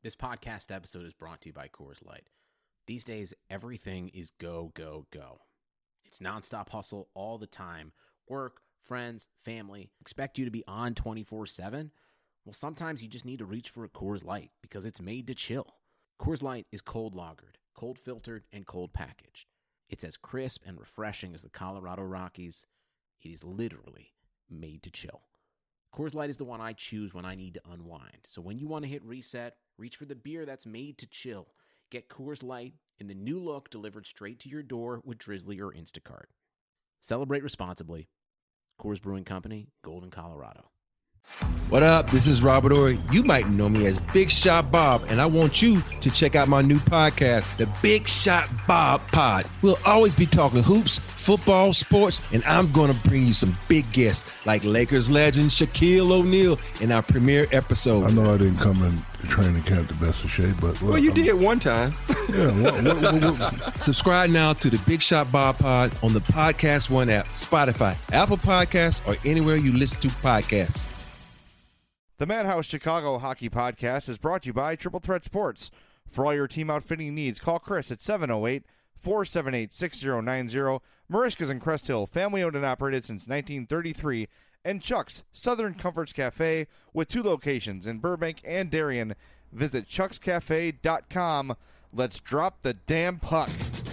This podcast episode is brought to you by Coors Light. These days, everything is go, go, go. It's nonstop hustle all the time. Work, friends, family, expect you to be on 24/7. Well, sometimes you just need to reach for a Coors Light because it's made to chill. Coors Light is cold lagered, cold filtered, and cold packaged. It's as crisp and refreshing as the Colorado Rockies. It is literally made to chill. Coors Light is the one I choose when I need to unwind. So when you want to hit reset, reach for the beer that's made to chill. Get Coors Light in the new look delivered straight to your door with Drizzly or Instacart. Celebrate responsibly. Coors Brewing Company, Golden, Colorado. What up? This is Robert Ory. You might know me as Big Shot Bob, and I want you to check out my new podcast, The Big Shot Bob Pod. We'll always be talking hoops, football, sports, and I'm going to bring you some big guests like Lakers legend Shaquille O'Neal in our premiere episode. I know I didn't come in training camp the best of shape, but... Well, you did one time. Yeah. Subscribe now to The Big Shot Bob Pod on the Podcast One app, Spotify, Apple Podcasts, or anywhere you listen to podcasts. The Madhouse Chicago Hockey Podcast is brought to you by Triple Threat Sports. For all your team outfitting needs, call Chris at 708-478-6090. Marishka's in Crest Hill, family owned and operated since 1933. And Chuck's Southern Comforts Cafe with 2 locations in Burbank and Darien. Visit chuckscafe.com. Let's drop the damn puck.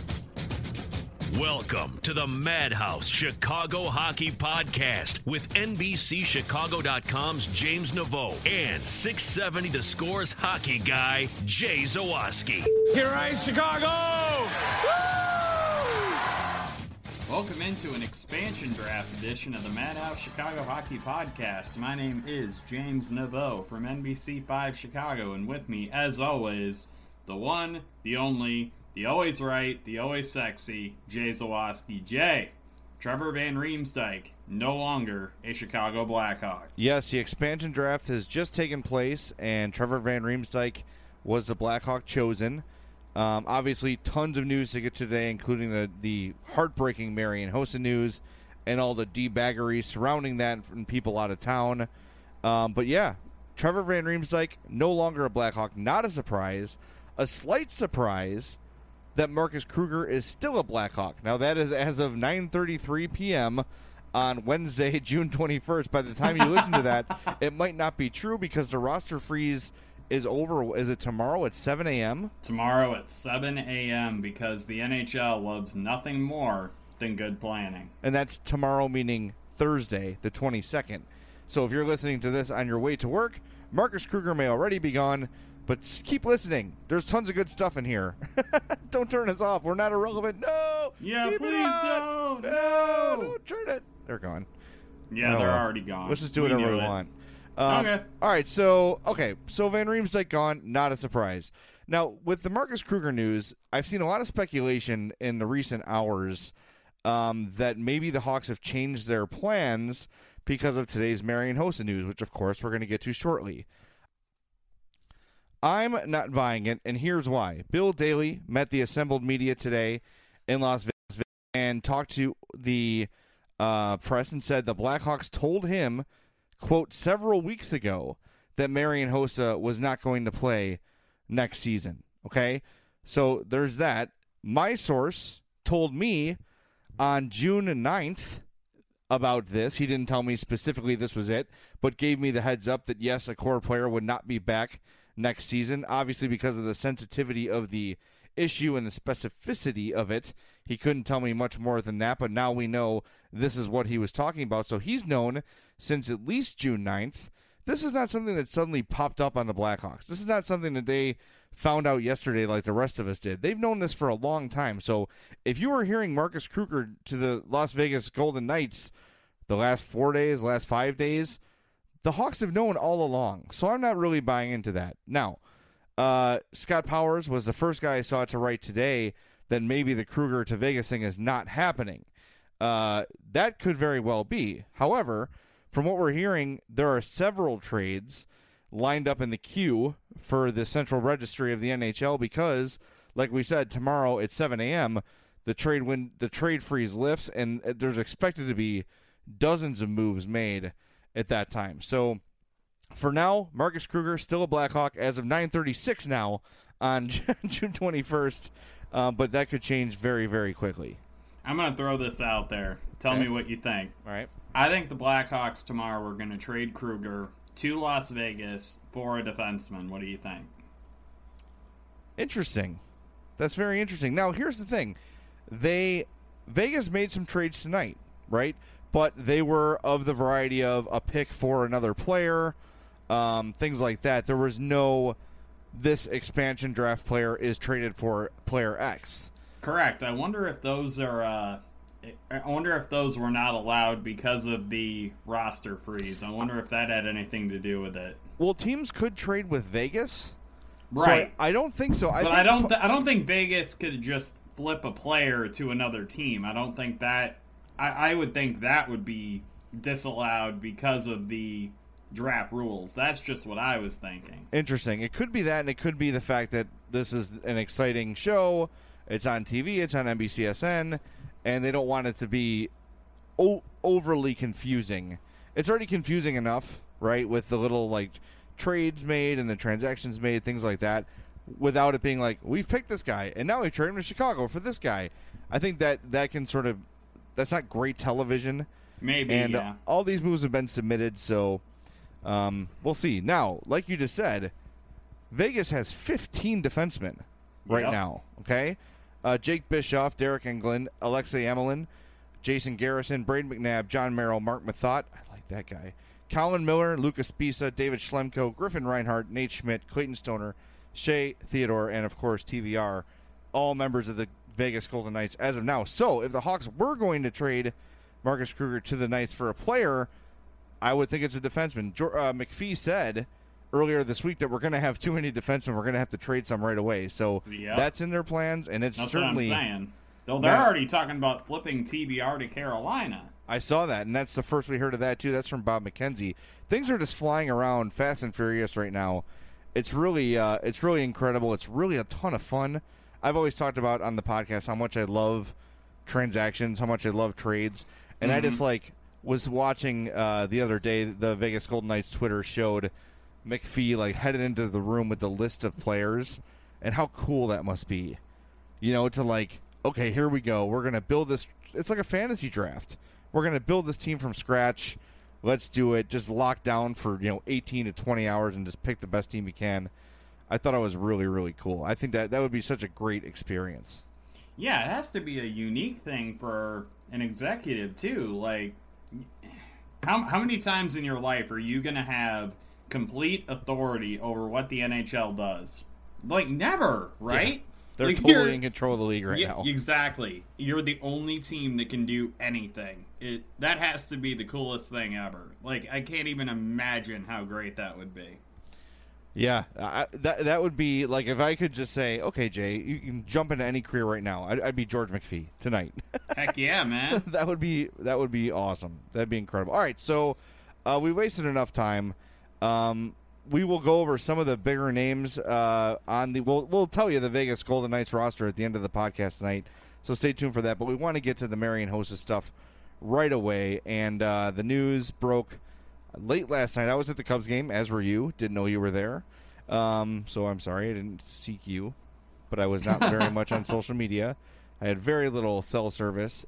Welcome to the Madhouse Chicago Hockey Podcast with NBCChicago.com's James Naveau and 670 The Score's hockey guy, Jay Zawaski. Here rise Chicago! Woo! Welcome into an expansion draft edition of the Madhouse Chicago Hockey Podcast. My name is James Naveau from NBC5 Chicago, and with me, as always, the one, the only, the always right, the always sexy, Jay Zawaski. Jay, Trevor Van Riemsdyk, no longer a Chicago Blackhawk. Yes, the expansion draft has just taken place, and Trevor Van Riemsdyk was the Blackhawk chosen. Obviously, tons of news to get today, including the heartbreaking Marian Hossa news and all the debaggery surrounding that from people out of town. But yeah, Trevor Van Riemsdyk, no longer a Blackhawk. Not a surprise. A slight surprise that Marcus Kruger is still a Blackhawk. Now, that is as of 9:33 p.m. on Wednesday, June 21st. By the time you listen to that, it might not be true because the roster freeze is over. Is it tomorrow at 7 a.m.? Tomorrow at 7 a.m. because the NHL loves nothing more than good planning. And that's tomorrow, meaning Thursday, the 22nd. So if you're listening to this on your way to work, Marcus Kruger may already be gone. But keep listening. There's tons of good stuff in here. Don't turn us off. We're not irrelevant. No. Yeah, keep please don't. No. Don't turn it. They're gone. Yeah, they're already gone. Let's just do whatever we want. Okay. All right. So Van Riemsdyk gone. Not a surprise. Now, with the Marcus Kruger news, I've seen a lot of speculation in the recent hours that maybe the Hawks have changed their plans because of today's Marian Hossa news, which, of course, we're going to get to shortly. I'm not buying it, and here's why. Bill Daly met the assembled media today in Las Vegas and talked to the press and said the Blackhawks told him, quote, several weeks ago that Marian Hossa was not going to play next season. Okay? So there's that. My source told me on June 9th about this. He didn't tell me specifically this was it, but gave me the heads up that, yes, a core player would not be back next season, obviously because of the sensitivity of the issue and the specificity of it. He couldn't tell me much more than that, but now we know this is what he was talking about. So he's known since at least June 9th. This is not something that suddenly popped up on the Blackhawks. This is not something that they found out yesterday like the rest of us did. They've known this for a long time. So if you were hearing Marcus Kruger to the Las Vegas Golden Knights the last 4 days, last 5 days, the Hawks have known all along, so I'm not really buying into that. Now, Scott Powers was the first guy I saw to write today that maybe the Kruger to Vegas thing is not happening. That could very well be. However, from what we're hearing, there are several trades lined up in the queue for the central registry of the NHL because, like we said, tomorrow at 7 a.m., the trade freeze lifts, and there's expected to be dozens of moves made at that time. So For now, Marcus Kruger still a Blackhawk as of 9:36 now on June 21st, but that could change very, very quickly. I'm going to throw this out there. Tell me what you think. All right. I think the Blackhawks tomorrow are going to trade Kruger to Las Vegas for a defenseman. What do you think? Interesting. That's very interesting. Now, here's the thing. Vegas made some trades tonight, right? But they were of the variety of a pick for another player, things like that. There was no, this expansion draft player is traded for player X. Correct. I wonder if those are. I wonder if those were not allowed because of the roster freeze. I wonder if that had anything to do with it. Well, teams could trade with Vegas, right? So I don't think so. I don't think Vegas could just flip a player to another team. I don't think that. I would think that would be disallowed because of the draft rules. That's just what I was thinking. Interesting. It could be that, and it could be the fact that this is an exciting show. It's on TV. It's on NBCSN, and they don't want it to be overly confusing. It's already confusing enough, right, with the little trades made and the transactions made, things like that, without it being like, we've picked this guy, and now we trade him to Chicago for this guy. I think that can sort of, that's not great television. Maybe, and yeah. All these moves have been submitted, so we'll see. Now, like you just said, Vegas has 15 defensemen right now, okay? Jake Bischoff, Derek Englund, Alexei Emelin, Jason Garrison, Braden McNabb, John Merrill, Mark Mathot, I like that guy, Colin Miller, Lucas Pisa, David Schlemko, Griffin Reinhart, Nate Schmidt, Clayton Stoner, Shea Theodore, and, of course, TVR, all members of the Vegas Golden Knights as of now. So if the Hawks were going to trade Marcus Kruger to the Knights for a player, I would think it's a defenseman. McPhee said earlier this week that we're going to have too many defensemen. We're going to have to trade some right away. So that's in their plans, and that's certainly what I'm saying. They're already talking about flipping TBR to Carolina. I saw that, and that's the first we heard of that, too. That's from Bob McKenzie. Things are just flying around fast and furious right now. It's really incredible. It's really a ton of fun. I've always talked about on the podcast how much I love transactions, how much I love trades, and I just was watching the other day, the Vegas Golden Knights Twitter showed McPhee headed into the room with the list of players, and how cool that must be. You know, to okay, here we go. We're going to build this. It's like a fantasy draft. We're going to build this team from scratch. Let's do it. Just lock down for 18 to 20 hours and just pick the best team you can. I thought it was really, really cool. I think that would be such a great experience. Yeah, it has to be a unique thing for an executive, too. How many times in your life are you going to have complete authority over what the NHL does? Never, right? Yeah. They're totally in control of the league right now. Exactly. You're the only team that can do anything. That has to be the coolest thing ever. I can't even imagine how great that would be. Yeah, that would be if I could just say, okay, Jay, you can jump into any career right now. I'd be George McPhee tonight. Heck yeah, man. That would be awesome. That'd be incredible. All right, so we wasted enough time. We will go over some of the bigger names on the. We'll tell you the Vegas Golden Knights roster at the end of the podcast tonight. So stay tuned for that. But we want to get to the Marian Hossa stuff right away. And the news broke late last night. I was at the Cubs game, as were you. Didn't know you were there. So I'm sorry I didn't seek you. But I was not very much on social media. I had very little cell service.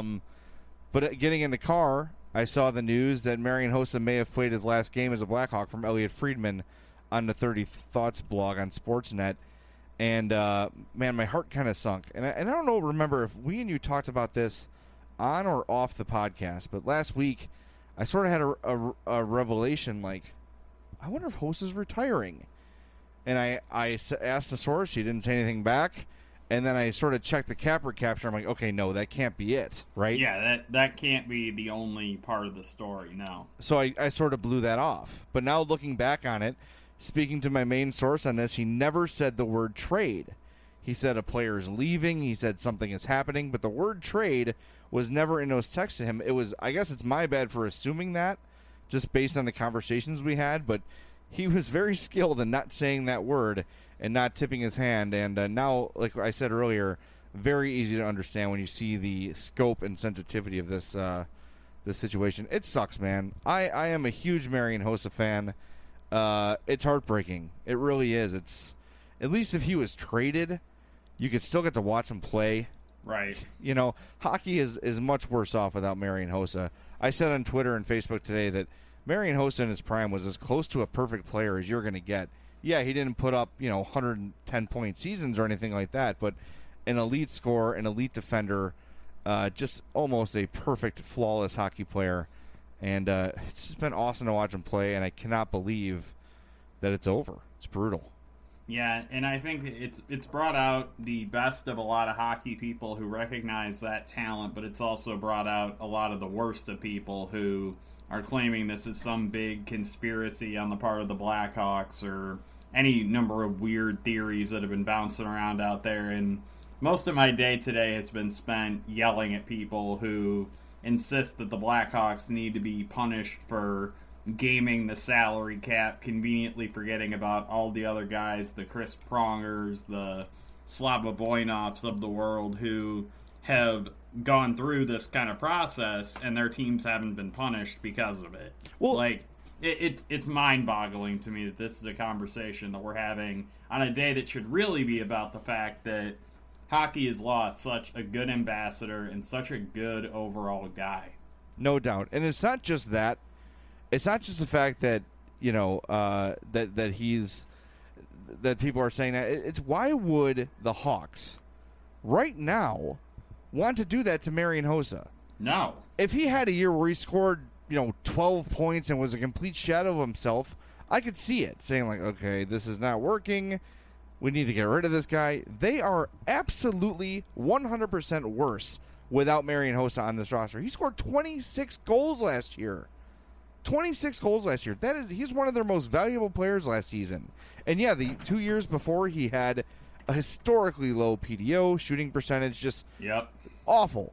But getting in the car, I saw the news that Marian Hossa may have played his last game as a Blackhawk from Elliot Friedman on the 30 Thoughts blog on Sportsnet. And, man, my heart kind of sunk. And I don't remember if we and you talked about this on or off the podcast, but last week I sort of had a revelation I wonder if Hossa's retiring. And I asked the source. She didn't say anything back. And then I sort of checked the capper capture. I'm like, okay, no, that can't be it, right? Yeah, that can't be the only part of the story, no. So I sort of blew that off. But now looking back on it, speaking to my main source on this, he never said the word trade. He said a player is leaving. He said something is happening. But the word trade was never in those texts to him. It was, I guess it's my bad for assuming that, just based on the conversations we had. But he was very skilled in not saying that word and not tipping his hand. And now, like I said earlier, very easy to understand when you see the scope and sensitivity of this this situation. It sucks, man. I am a huge Marian Hossa fan. it's heartbreaking. It really is. It's at least if he was traded, you could still get to watch him play. Right. Hockey is much worse off without Marian Hossa. I said on Twitter and Facebook today that Marian Hossa in his prime was as close to a perfect player as you're going to get. Yeah, he didn't put up 110-point seasons or anything like that, but an elite scorer, an elite defender, just almost a perfect, flawless hockey player. And it's just been awesome to watch him play, and I cannot believe that it's over. It's brutal. Yeah, and I think it's brought out the best of a lot of hockey people who recognize that talent, but it's also brought out a lot of the worst of people who are claiming this is some big conspiracy on the part of the Blackhawks or any number of weird theories that have been bouncing around out there. And most of my day today has been spent yelling at people who insist that the Blackhawks need to be punished for gaming the salary cap, conveniently forgetting about all the other guys, the Chris Prongers, the Slava Voinovs of the world, who have gone through this kind of process and their teams haven't been punished because of it. Well, it's mind-boggling to me that this is a conversation that we're having on a day that should really be about the fact that hockey has lost such a good ambassador and such a good overall guy. No doubt. And it's not just that. It's not just the fact that that people are saying that. It's why would the Hawks right now want to do that to Marian Hossa? No. If he had a year where he scored 12 points and was a complete shadow of himself, I could see it saying like, okay, this is not working. We need to get rid of this guy. They are absolutely 100% worse without Marian Hossa on this roster. He scored 26 goals last year. 26 goals last year. He's one of their most valuable players last season. And yeah, the 2 years before he had a historically low PDO, shooting percentage, just awful.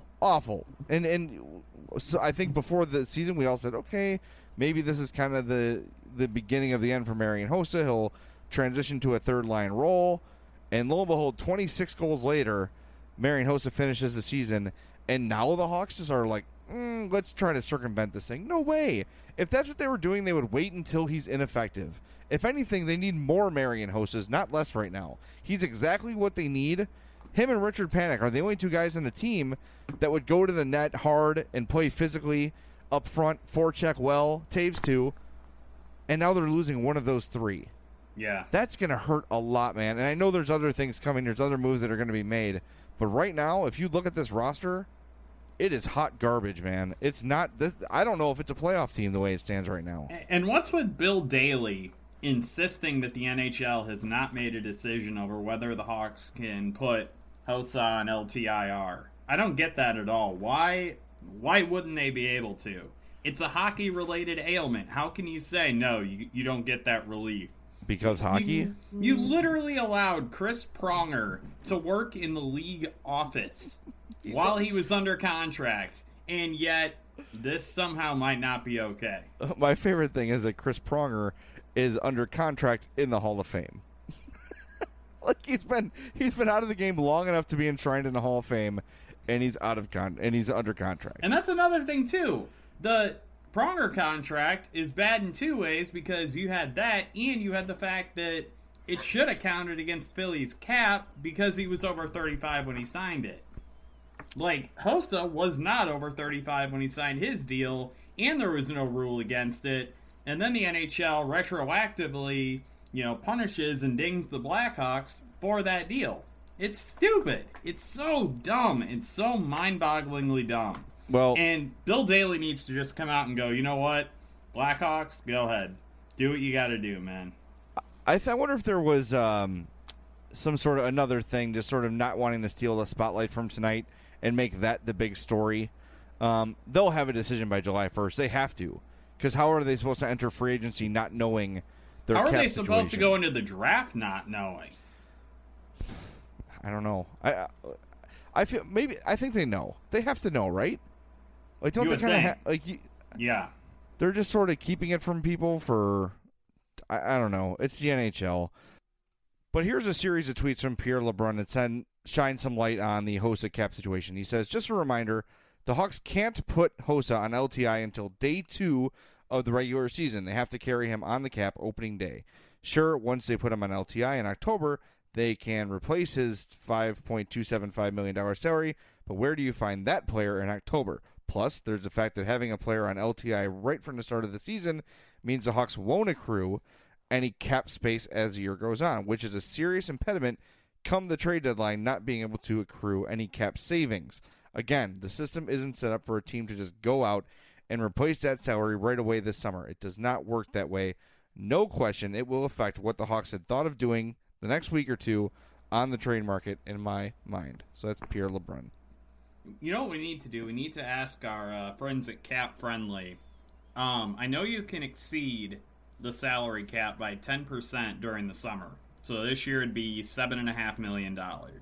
And so I think before the season we all said, okay, maybe this is kind of the beginning of the end for Marian Hossa. He'll transition to a third line role. And lo and behold, 26 goals later, Marian Hossa finishes the season, and now the Hawks just are like, let's try to circumvent this thing. No way. If that's what they were doing, they would wait until he's ineffective. If anything, they need more Marian Hossas, not less right now. He's exactly what they need. Him and Richard Panik are the only two guys on the team that would go to the net hard and play physically up front, forecheck well, Taves too. And now they're losing one of those three. Yeah. That's going to hurt a lot, man. And I know there's other things coming. There's other moves that are going to be made. But right now, if you look at this roster, it is hot garbage, man. It's not. I don't know if it's a playoff team the way it stands right now. And what's with Bill Daly insisting that the NHL has not made a decision over whether the Hawks can put Hossa on LTIR? I don't get that at all. Why wouldn't they be able to? It's a hockey-related ailment. How can you say, no, you don't get that relief? Because hockey? You literally allowed Chris Pronger to work in the league office while he was under contract, and yet this somehow might not be okay. My favorite thing is that Chris Pronger is under contract in the Hall of Fame. Like he's been out of the game long enough to be enshrined in the Hall of Fame, and he's he's under contract. And that's another thing too. The Pronger contract is bad in two ways, because you had that, and you had the fact that it should have counted against Philly's cap because he was over 35 when he signed it. Like, Hossa was not over 35 when he signed his deal, and there was no rule against it. And then the NHL retroactively, punishes and dings the Blackhawks for that deal. It's stupid. It's so dumb. It's so mind-bogglingly dumb. Well, and Bill Daly needs to just come out and go, you know what? Blackhawks, go ahead. Do what you got to do, man. I wonder if there was some sort of another thing, just sort of not wanting to steal the spotlight from tonight and make that the big story. They'll have a decision by July 1st. They have to. Because how are they supposed to enter free agency not knowing their cap situation? How are they supposed to go into the draft not knowing? I don't know. I think they know. They have to know, right? Like, don't they kind of yeah. They're just sort of keeping it from people for I don't know. It's the NHL. But here's a series of tweets from Pierre LeBrun that shine some light on the Hossa cap situation. He says, just a reminder, the Hawks can't put Hossa on LTI until day 2 of the regular season. They have to carry him on the cap opening day. Sure, once they put him on LTI in October, they can replace his $5.275 million salary, but where do you find that player in October? Plus, there's the fact that having a player on LTI right from the start of the season means the Hawks won't accrue any cap space as the year goes on, which is a serious impediment come the trade deadline, not being able to accrue any cap savings. Again, the system isn't set up for a team to just go out and replace that salary right away this summer. It does not work that way. No question, it will affect what the Hawks had thought of doing the next week or two on the trade market, in my mind. So that's Pierre LeBrun. You know what we need to do? We need to ask our friends at Cap Friendly. I know you can exceed the salary cap by 10% during the summer. So this year it'd be $7.5 million.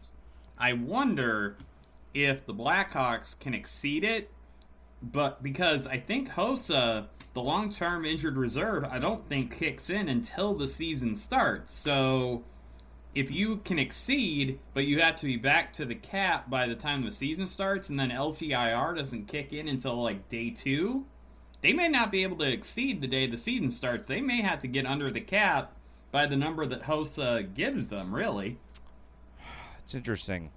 I wonder if the Blackhawks can exceed it, but because I think Hossa, the long-term injured reserve, I don't think kicks in until the season starts. So if you can exceed, but you have to be back to the cap by the time the season starts, and then LTIR doesn't kick in until like day 2, they may not be able to exceed the day the season starts. They may have to get under the cap by the number that Hossa gives them, really. It's interesting.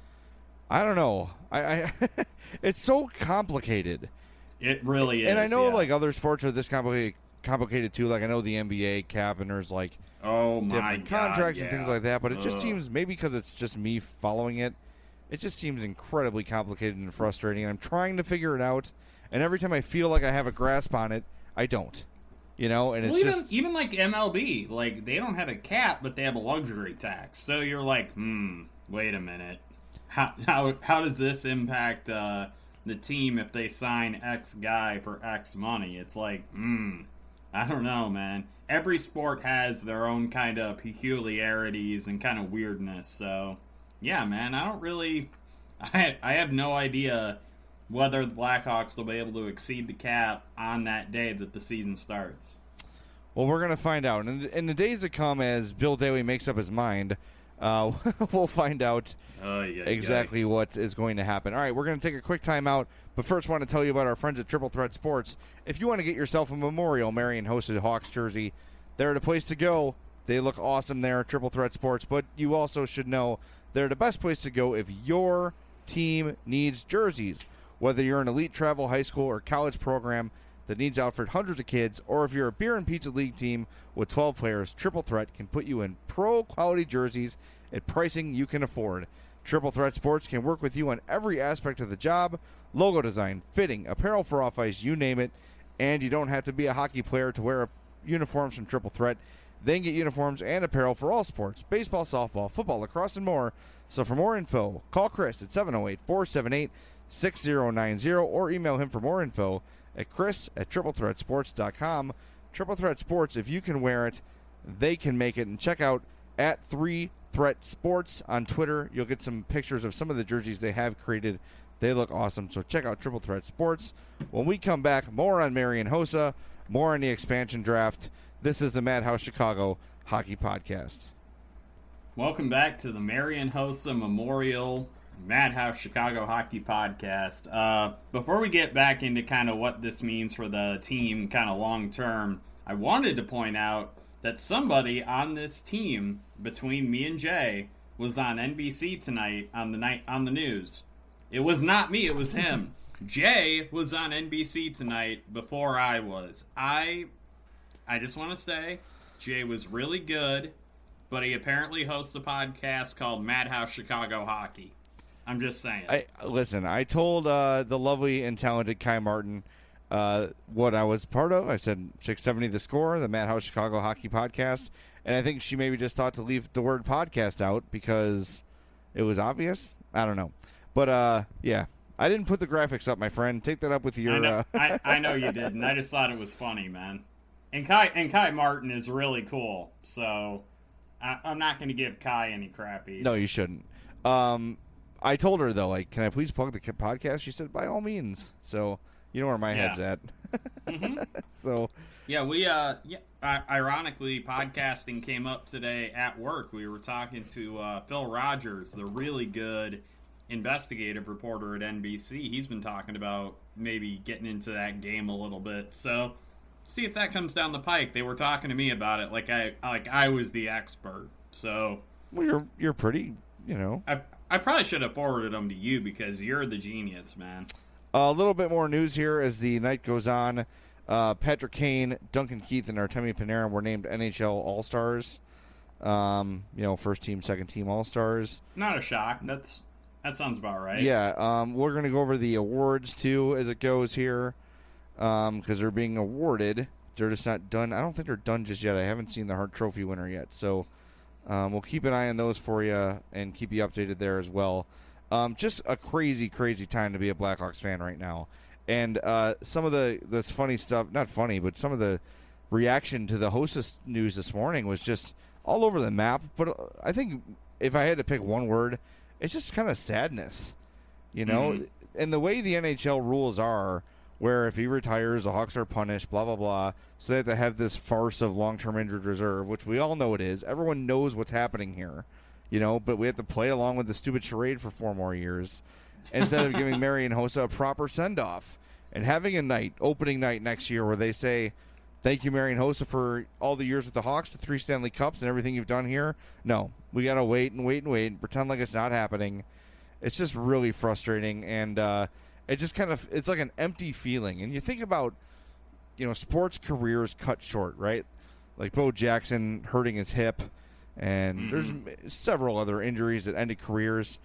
I don't know. I it's so complicated. It really is. And I know yeah. like other sports are this complicated too. Like I know the NBA cap and there's like different contracts and things like that. But it just seems, maybe because it's just me following it, it just seems incredibly complicated and frustrating. And I'm trying to figure it out. And every time I feel like I have a grasp on it, I don't. You know, and it's even like MLB, like they don't have a cap, but they have a luxury tax. So you're like, wait a minute, how does this impact the team if they sign X guy for X money? It's like, I don't know, man. Every sport has their own kind of peculiarities and kind of weirdness. So yeah, man, I have no idea whether the Blackhawks will be able to exceed the cap on that day that the season starts. Well, we're going to find out. And in the days to come, as Bill Daly makes up his mind, we'll find out exactly what is going to happen. All right, we're going to take a quick time out, but first want to tell you about our friends at Triple Threat Sports. If you want to get yourself a Memorial Marion hosted Hawks jersey, they're the place to go. They look awesome there at Triple Threat Sports, but you also should know they're the best place to go if your team needs jerseys. Whether you're an elite travel, high school, or college program that needs outfit hundreds of kids, or if you're a beer and pizza league team with 12 players, Triple Threat can put you in pro-quality jerseys at pricing you can afford. Triple Threat Sports can work with you on every aspect of the job: logo design, fitting, apparel for off-ice, you name it. And you don't have to be a hockey player to wear uniforms from Triple Threat. They can get uniforms and apparel for all sports: baseball, softball, football, lacrosse, and more. So for more info, call Chris at 708-478-6090 or email him for more info at chris@triplethreatsports.com. Triple Threat Sports, if you can wear it, they can make it. And check out at 3 Threat Sports on Twitter. You'll get some pictures of some of the jerseys they have created. They look awesome. So check out Triple Threat Sports. When we come back, more on Marian Hossa, more on the expansion draft. This is the Madhouse Chicago Hockey Podcast. Welcome back to the Marian Hossa Memorial Madhouse Chicago Hockey Podcast. Before we get back into kind of what this means for the team kind of long term, I wanted to point out that somebody on this team between me and Jay was on NBC tonight on the news. It was not me, it was him. Jay was on NBC tonight before I was. I just want to say Jay was really good, but he apparently hosts a podcast called Madhouse Chicago Hockey. I'm just saying. Listen, I told the lovely and talented Kai Martin what I was part of. I said 670 The Score, the Madhouse Chicago Hockey Podcast. And I think she maybe just thought to leave the word podcast out because it was obvious. I don't know. But, yeah. I didn't put the graphics up, my friend. Take that up with your... I know you didn't. I just thought it was funny, man. And Kai Martin is really cool. So I'm not going to give Kai any crap either. No, you shouldn't. I told her, though, like, can I please plug the podcast? She said, by all means. So, you know where my head's at. Mm-hmm. So... Yeah, ironically, podcasting came up today at work. We were talking to Phil Rogers, the really good investigative reporter at NBC. He's been talking about maybe getting into that game a little bit. So, see if that comes down the pike. They were talking to me about it like I was the expert. So, well, you're pretty, I probably should have forwarded them to you because you're the genius, man. A little bit more news here as the night goes on. Patrick Kane, Duncan Keith, and Artemi Panarin were named NHL All-Stars. First team, second team All-Stars. Not a shock. That sounds about right. Yeah, we're going to go over the awards, too, as it goes here, because they're being awarded. They're just not done. I don't think they're done just yet. I haven't seen the Hart Trophy winner yet, so we'll keep an eye on those for you and keep you updated there as well. Just a crazy, crazy time to be a Blackhawks fan right now. And some of this funny stuff, not funny, but some of the reaction to the Hostess news this morning was just all over the map. But I think if I had to pick one word, it's just kind of sadness, And the way the NHL rules are, where if he retires, the Hawks are punished, blah, blah, blah. So they have to have this farce of long-term injured reserve, which we all know it is. Everyone knows what's happening here, but we have to play along with the stupid charade for 4 more years instead of giving Marian Hossa a proper send-off and having a opening night next year where they say, thank you, Marian Hossa, for all the years with the Hawks, the 3 Stanley Cups, and everything you've done here. No, we got to wait and pretend like it's not happening. It's just really frustrating, and it just it's like an empty feeling. And you think about, sports careers cut short, right? Like Bo Jackson hurting his hip, and there's several other injuries that ended careers.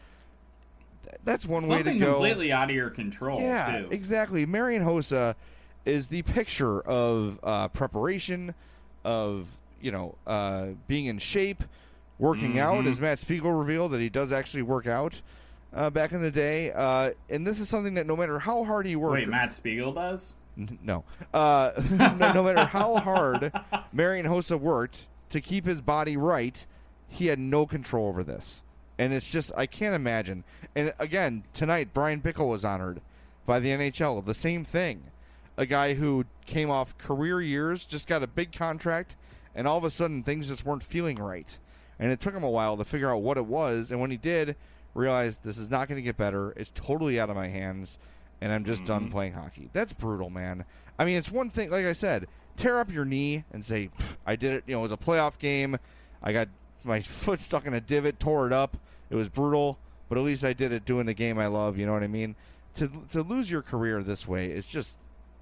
That's one way to go. Something completely out of your control, yeah, too. Exactly. Marian Hossa is the picture of preparation, of being in shape, working out, as Matt Spiegel revealed that he does actually work out back in the day. And this is something that no matter how hard he worked... Wait, Matt Spiegel does? No. No matter how hard Marian Hossa worked to keep his body right, he had no control over this. And it's just, I can't imagine. And again, tonight, Brian Bickle was honored by the NHL. The same thing. A guy who came off career years, just got a big contract, and all of a sudden things just weren't feeling right. And it took him a while to figure out what it was. And when he did, realized this is not going to get better. It's totally out of my hands, and I'm just done playing hockey. That's brutal, man. I mean, it's one thing, like I said, tear up your knee and say, I did it. It was a playoff game. I got my foot stuck in a divot, tore it up. It was brutal, but at least I did it doing the game I love. You know what I mean? To lose your career this way, it's just,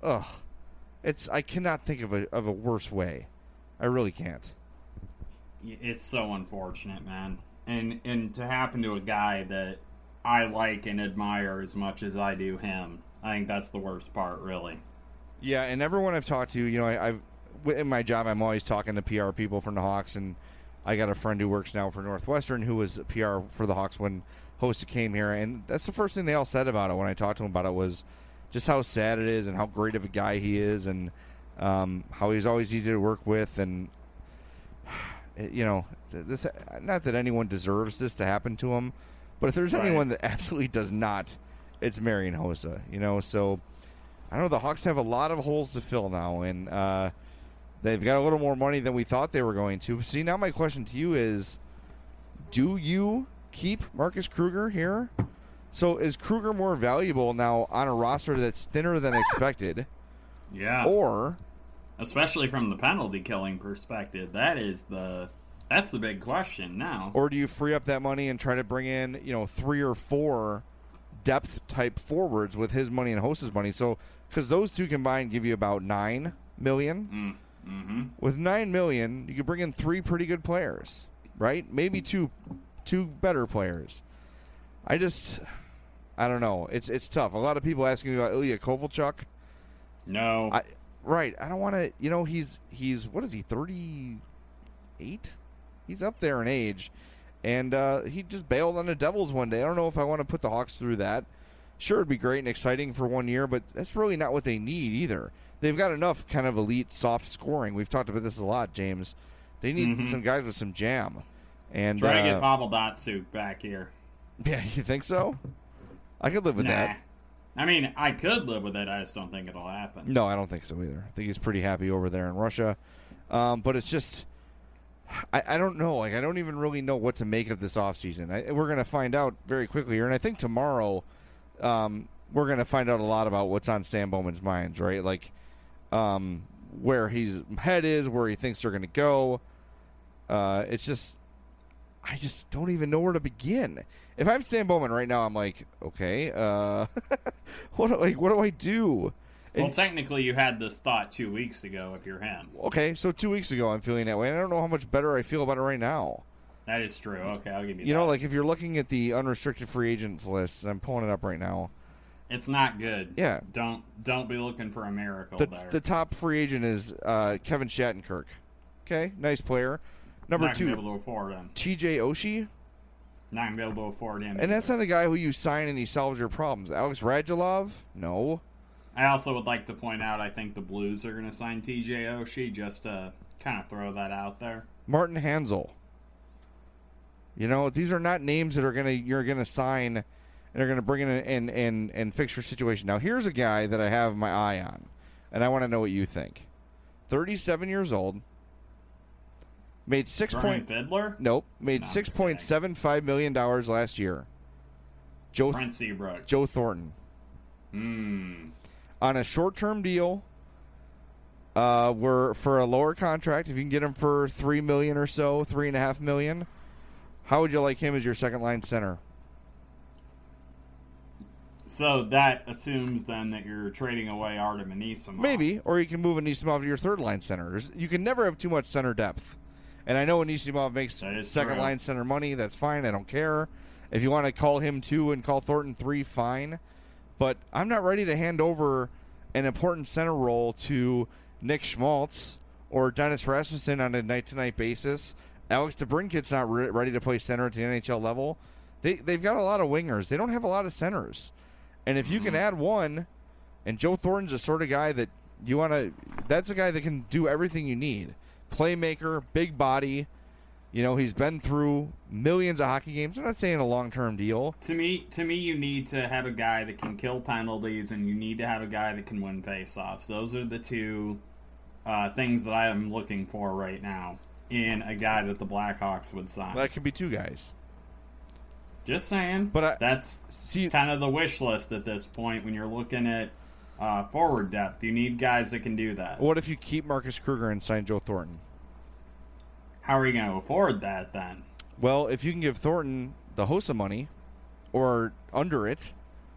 I cannot think of a worse way. I really can't. It's so unfortunate, man. And to happen to a guy that I like and admire as much as I do him, I think that's the worst part, really. Yeah, and everyone I've talked to, I've in my job, I'm always talking to PR people from the Hawks, and I got a friend who works now for Northwestern who was PR for the Hawks when Hossa came here, and that's the first thing they all said about it when I talked to them about it was just how sad it is and how great of a guy he is, and how he's always easy to work with, and this, not that anyone deserves this to happen to him, but if there's anyone that absolutely does not, it's Marian Hossa. So I know the Hawks have a lot of holes to fill now, and they've got a little more money than we thought they were going to. See, now my question to you is, do you keep Marcus Kruger here? So is Kruger more valuable now on a roster that's thinner than expected? Yeah. Or, especially from the penalty killing perspective, that's the big question now. Or do you free up that money and try to bring in, 3 or 4 depth type forwards with his money and Hossa's money? So, because those two combined give you about $9 million. With $9 million, you could bring in 3 pretty good players, right? Maybe two better players. I don't know. It's tough. A lot of people asking me about Ilya Kovalchuk. No. I don't want to. He's what is he? 38. He's up there in age, and he just bailed on the Devils one day. I don't know if I want to put the Hawks through that. Sure, it'd be great and exciting for 1 year, but that's really not what they need either. They've got enough kind of elite soft scoring. We've talked about this a lot, James. They need some guys with some jam. And try to get Pavel Datsyuk back here. Yeah, you think so? I could live with that. I mean, I could live with it. I just don't think it'll happen. No, I don't think so either. I think he's pretty happy over there in Russia. But it's just, I don't know. Like, I don't even really know what to make of this offseason. We're going to find out very quickly here. And I think tomorrow we're going to find out a lot about what's on Stan Bowman's minds, right? Like, where his head is, where he thinks they're going to go. It's just, I just don't even know where to begin. If I'm Stan Bowman right now, I'm like, okay, what do I do? Well, technically, you had this thought 2 weeks ago if you're him. Okay, so 2 weeks ago I'm feeling that way, and I don't know how much better I feel about it right now. That is true. Okay, I'll give you that. You know, like if you're looking at the unrestricted free agents list, I'm pulling it up right now. It's not good. Yeah. Don't be looking for a miracle there. The top free agent is Kevin Shattenkirk. Okay, nice player. Number not 2, gonna be able to afford him. TJ Oshie. Not going to be able to afford him. And that's not a guy who you sign and he solves your problems. Alex Radulov? No. I also would like to point out I think the Blues are going to sign TJ Oshie, just to kind of throw that out there. Martin Hansel. You know, these are not names that you're gonna sign and are gonna bring in and fix your situation. Now here's a guy that I have my eye on, and I want to know what you think. 37 years old. Made Fiddler? Nope. Made $6.75 million last year. Brent Seabrook. Joe Thornton. On a short-term deal, we're for a lower contract. If you can get him for $3 million or so, $3.5 million, how would you like him as your second-line center? So that assumes then that you're trading away Artem Anisimov. Maybe, or you can move Anisimov to your third-line center. You can never have too much center depth. And I know Anisimov makes second-line center money. That's fine. I don't care. If you want to call him 2 and call Thornton 3, fine. But I'm not ready to hand over an important center role to Nick Schmaltz or Dennis Rasmussen on a night-to-night basis. Alex DeBrincat's not ready to play center at the NHL level. They've got a lot of wingers. They don't have a lot of centers. And if you can add one, and Joe Thornton's the sort of guy that you want to – that's a guy that can do everything you need. Playmaker, big body. You know, he's been through millions of hockey games. I'm not saying a long-term deal. To me, you need to have a guy that can kill penalties, and you need to have a guy that can win faceoffs. Those are the two things that I am looking for right now in a guy that the Blackhawks would sign. Well, that could be 2 guys. Just saying. But that's kind of the wish list at this point when you're looking at forward depth. You need guys that can do that. What if you keep Marcus Kruger and sign Joe Thornton? How are you going to afford that then? Well, if you can give Thornton the Hossa money or under it,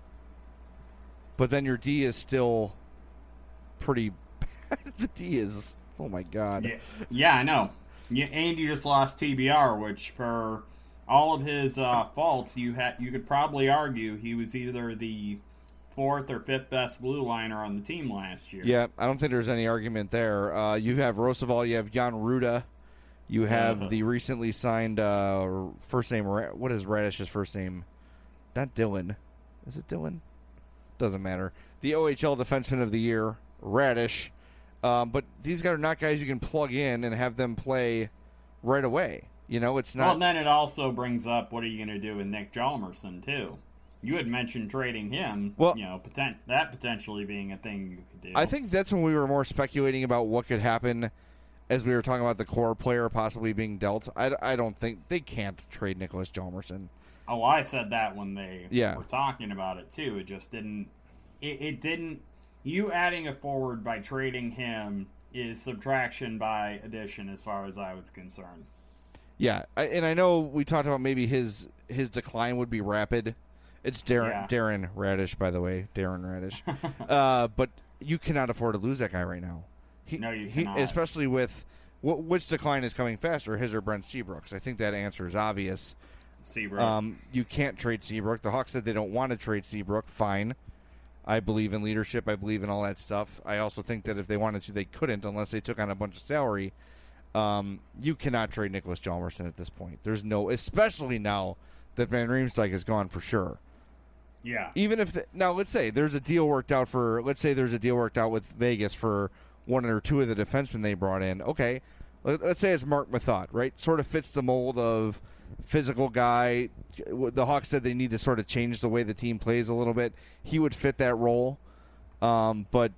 but then your D is still pretty bad. The D is, oh my God. Yeah, I know. And you just lost TBR, which for all of his faults, you could probably argue he was either the 4th or 5th best blue liner on the team last year. Yeah, I don't think there's any argument there. You have Roosevelt, you have Jan Ruda, you have the recently signed first name. What is Radish's first name? Not Dylan. Is it Dylan? Doesn't matter. The OHL Defenseman of the Year, Radish. But these guys are not guys you can plug in and have them play right away. You know, it's not. Well, then it also brings up what are you going to do with Nick Hjalmarsson too? You had mentioned trading him. Well, you know, that potentially being a thing you could do. I think that's when we were more speculating about what could happen as we were talking about the core player possibly being dealt. I don't think they can't trade Nicholas Hjalmarsson. Oh, I said that when they were talking about it too. It just didn't. It didn't. You adding a forward by trading him is subtraction by addition, as far as I was concerned. Yeah, and I know we talked about maybe his decline would be rapid. It's Darren Radish, by the way, Darren Radish. But you cannot afford to lose that guy right now. No, you cannot. Especially with which decline is coming faster, his or Brent Seabrook's. I think that answer is obvious. Seabrook. You can't trade Seabrook. The Hawks said they don't want to trade Seabrook. Fine. I believe in leadership. I believe in all that stuff. I also think that if they wanted to, they couldn't unless they took on a bunch of salary. You cannot trade Nicholas Hjalmarsson at this point. There's no, especially now that Van Riemsdyk is gone for sure. Yeah. Even if now, let's say there's a deal worked out with Vegas for one or two of the defensemen they brought in. Okay, let's say it's Mark Method, right? Sort of fits the mold of physical guy. The Hawks said they need to sort of change the way the team plays a little bit. He would fit that role, but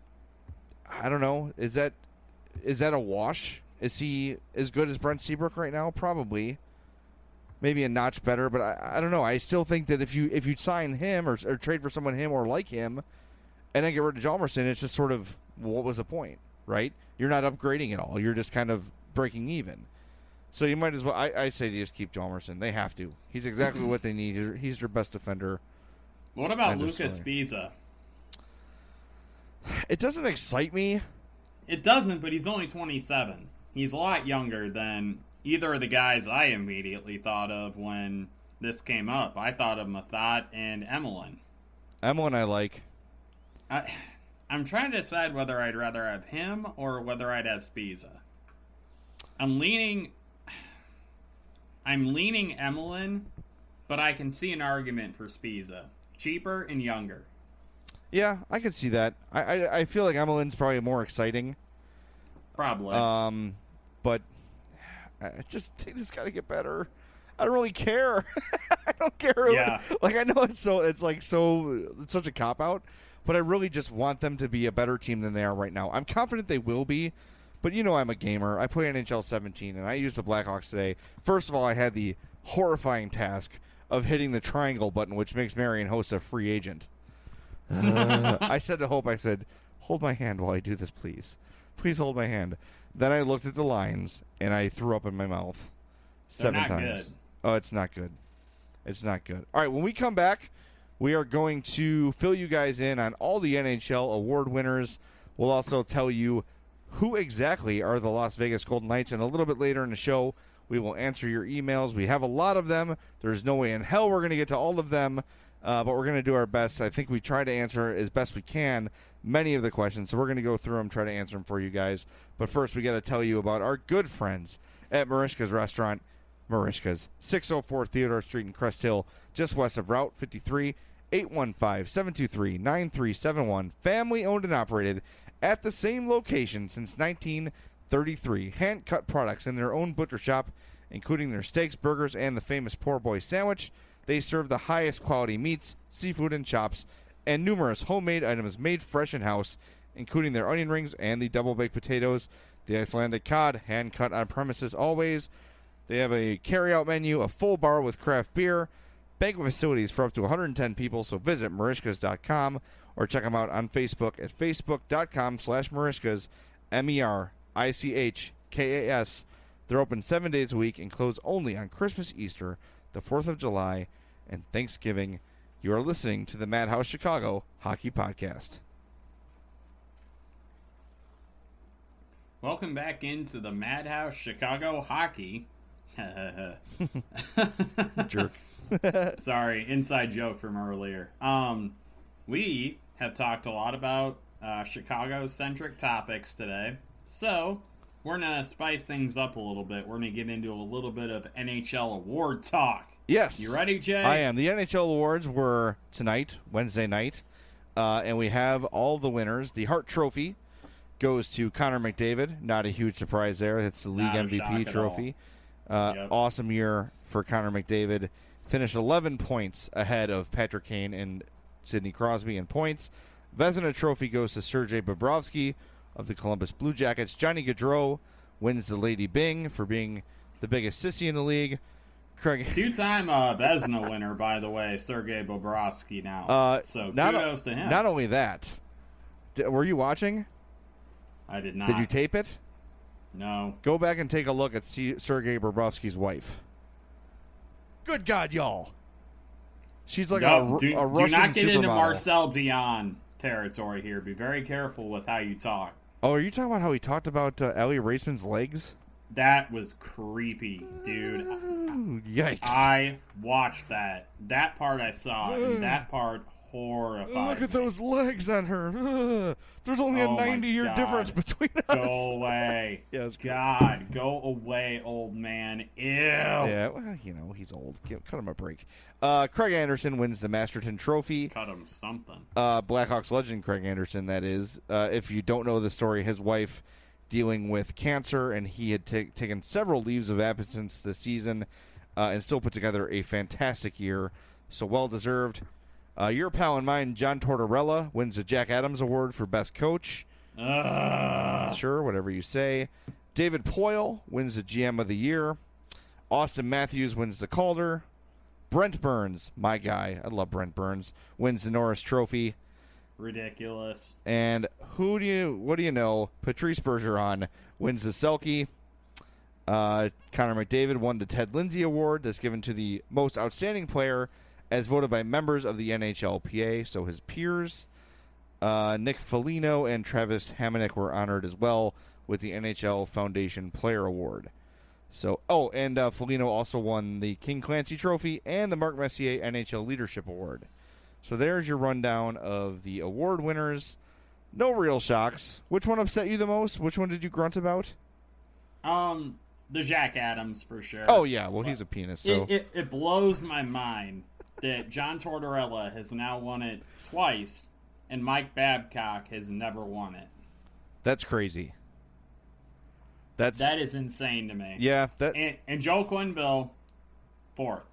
I don't know. Is that a wash? Is he as good as Brent Seabrook right now? Probably. Maybe a notch better, but I don't know. I still think that if you sign him or trade for someone him or like him, and then get rid of Hjalmarsson, it's just sort of what was the point, right? You're not upgrading at all. You're just kind of breaking even. So you might as well. I say you just keep Hjalmarsson. They have to. He's exactly what they need. He's their best defender. What about Lucas Spiza? It doesn't excite me. It doesn't, but he's only 27. He's a lot younger than either of the guys I immediately thought of when this came up. I thought of Mathot and Emelin. Emelin I like. I'm trying to decide whether I'd rather have him or whether I'd have Spiza. I'm leaning Emelin, but I can see an argument for Spiza. Cheaper and younger. Yeah, I could see that. I feel like Emelin's probably more exciting. Probably. But they just got to get better. I don't really care. I don't care. Yeah. Like, I know it's such a cop out, but I really just want them to be a better team than they are right now. I'm confident they will be, but you know I'm a gamer. I play NHL 17, and I used the Blackhawks today. First of all, I had the horrifying task of hitting the triangle button, which makes Marian Hossa a free agent. I said to Hope, hold my hand while I do this, please. Please hold my hand. Then I looked at the lines, and I threw up in my mouth 7 times. Good. Oh, it's not good. It's not good. All right, when we come back, we are going to fill you guys in on all the NHL award winners. We'll also tell you who exactly are the Las Vegas Golden Knights, and a little bit later in the show, we will answer your emails. We have a lot of them. There's no way in hell we're going to get to all of them, but we're going to do our best. I think we try to answer as best we can many of the questions, so we're going to go through them, try to answer them for you guys. But first, we got to tell you about our good friends at Merichka's Restaurant. Merichka's, 604 Theodore Street in Crest Hill, just west of Route 53, 815-723-9371. Family owned and operated at the same location since 1933. Hand-cut products in their own butcher shop, including their steaks, burgers, and the famous Poor Boy sandwich. They serve the highest quality meats, seafood, and chops, and numerous homemade items made fresh in-house, including their onion rings and the double-baked potatoes. The Icelandic cod, hand-cut on premises always. They have a carry-out menu, a full bar with craft beer, banquet facilities for up to 110 people, so visit Merichkas.com or check them out on Facebook at facebook.com/Merichkas, Merichkas. They're open 7 days a week and close only on Christmas, Easter, the 4th of July, and Thanksgiving. You are listening to the Madhouse Chicago Hockey Podcast. Welcome back into the Madhouse Chicago Hockey. Jerk. Sorry, inside joke from earlier. We have talked a lot about Chicago-centric topics today, so we're going to spice things up a little bit. We're going to get into a little bit of NHL award talk. Yes. You ready, Jay? I am. The NHL awards were tonight, Wednesday night, and we have all the winners. The Hart Trophy goes to Connor McDavid. Not a huge surprise there. It's the league MVP trophy. Yep. Awesome year for Connor McDavid. Finished 11 points ahead of Patrick Kane and Sidney Crosby in points. Vezina Trophy goes to Sergei Bobrovsky of the Columbus Blue Jackets. Johnny Gaudreau wins the Lady Byng for being the biggest sissy in the league. Craig, two-time Vezina winner, by the way, Sergei Bobrovsky now. So kudos to him. Not only that, were you watching? I did not. Did you tape it? No. Go back and take a look at Sergei Bobrovsky's wife. Good God, y'all. She's like a Russian supermodel. Do not get into Marcel Dion territory here. Be very careful with how you talk. Oh, are you talking about how he talked about Ellie Raceman's legs? That was creepy, dude. Yikes. I watched that. That part I saw, and that part horrified Look at me. those legs on her. There's only a 90-year difference between us. Go away. Yes. God, go away, old man. Ew. Yeah, well, you know, he's old. Cut him a break. Craig Anderson wins the Masterton Trophy. Cut him something. Blackhawks legend Craig Anderson, that is. If you don't know the story, his wife dealing with cancer, and he had taken several leaves of absence this season and still put together a fantastic year. So well-deserved. Your pal and mine, John Tortorella, wins the Jack Adams Award for Best Coach. Sure, whatever you say. David Poyle wins the GM of the Year. Austin Matthews wins the Calder. Brent Burns, my guy, I love Brent Burns, wins the Norris Trophy. Ridiculous. And what do you know? Patrice Bergeron wins the Selke. Connor McDavid won the Ted Lindsay Award that's given to the most outstanding player as voted by members of the NHLPA, so his peers. Nick Foligno and Travis Hamonic were honored as well with the NHL Foundation Player Award. So, and Foligno also won the King Clancy Trophy and the Mark Messier NHL Leadership Award. So there's your rundown of the award winners. No real shocks. Which one upset you the most? Which one did you grunt about? The Jack Adams for sure. Oh yeah, well he's a penis. So it blows my mind that John Tortorella has now won it twice, and Mike Babcock has never won it. That's crazy. That is insane to me. Yeah. And Joe Quenneville, fourth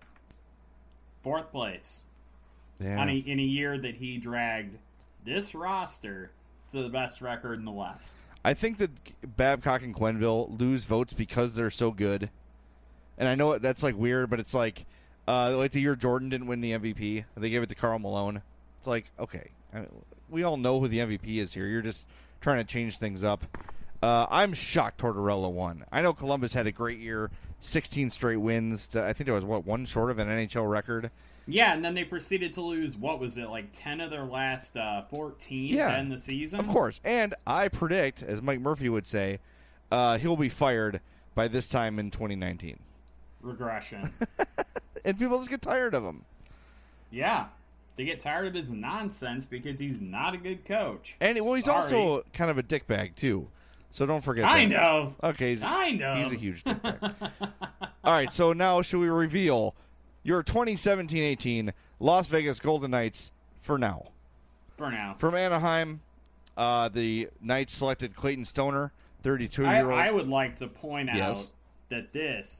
place. Yeah. In a year that he dragged this roster to the best record in the West. I think that Babcock and Quenneville lose votes because they're so good. And I know that's like weird, but it's like the year Jordan didn't win the MVP, they gave it to Karl Malone. It's like, okay, we all know who the MVP is here. You're just trying to change things up. I'm shocked Tortorella won. I know Columbus had a great year, 16 straight wins. I think there was, one short of an NHL record. Yeah, and then they proceeded to lose, 10 of their last 14 to end the season? Of course. And I predict, as Mike Murphy would say, he'll be fired by this time in 2019. Regression. And people just get tired of him. Yeah. They get tired of his nonsense because he's not a good coach. And he's also kind of a dickbag, too. So don't forget that. Kind of. Okay. He's a huge dickbag. All right, so now should we reveal your 2017-18 Las Vegas Golden Knights for now? For now. From Anaheim, the Knights selected Clayton Stoner, 32-year-old. I would like to point out that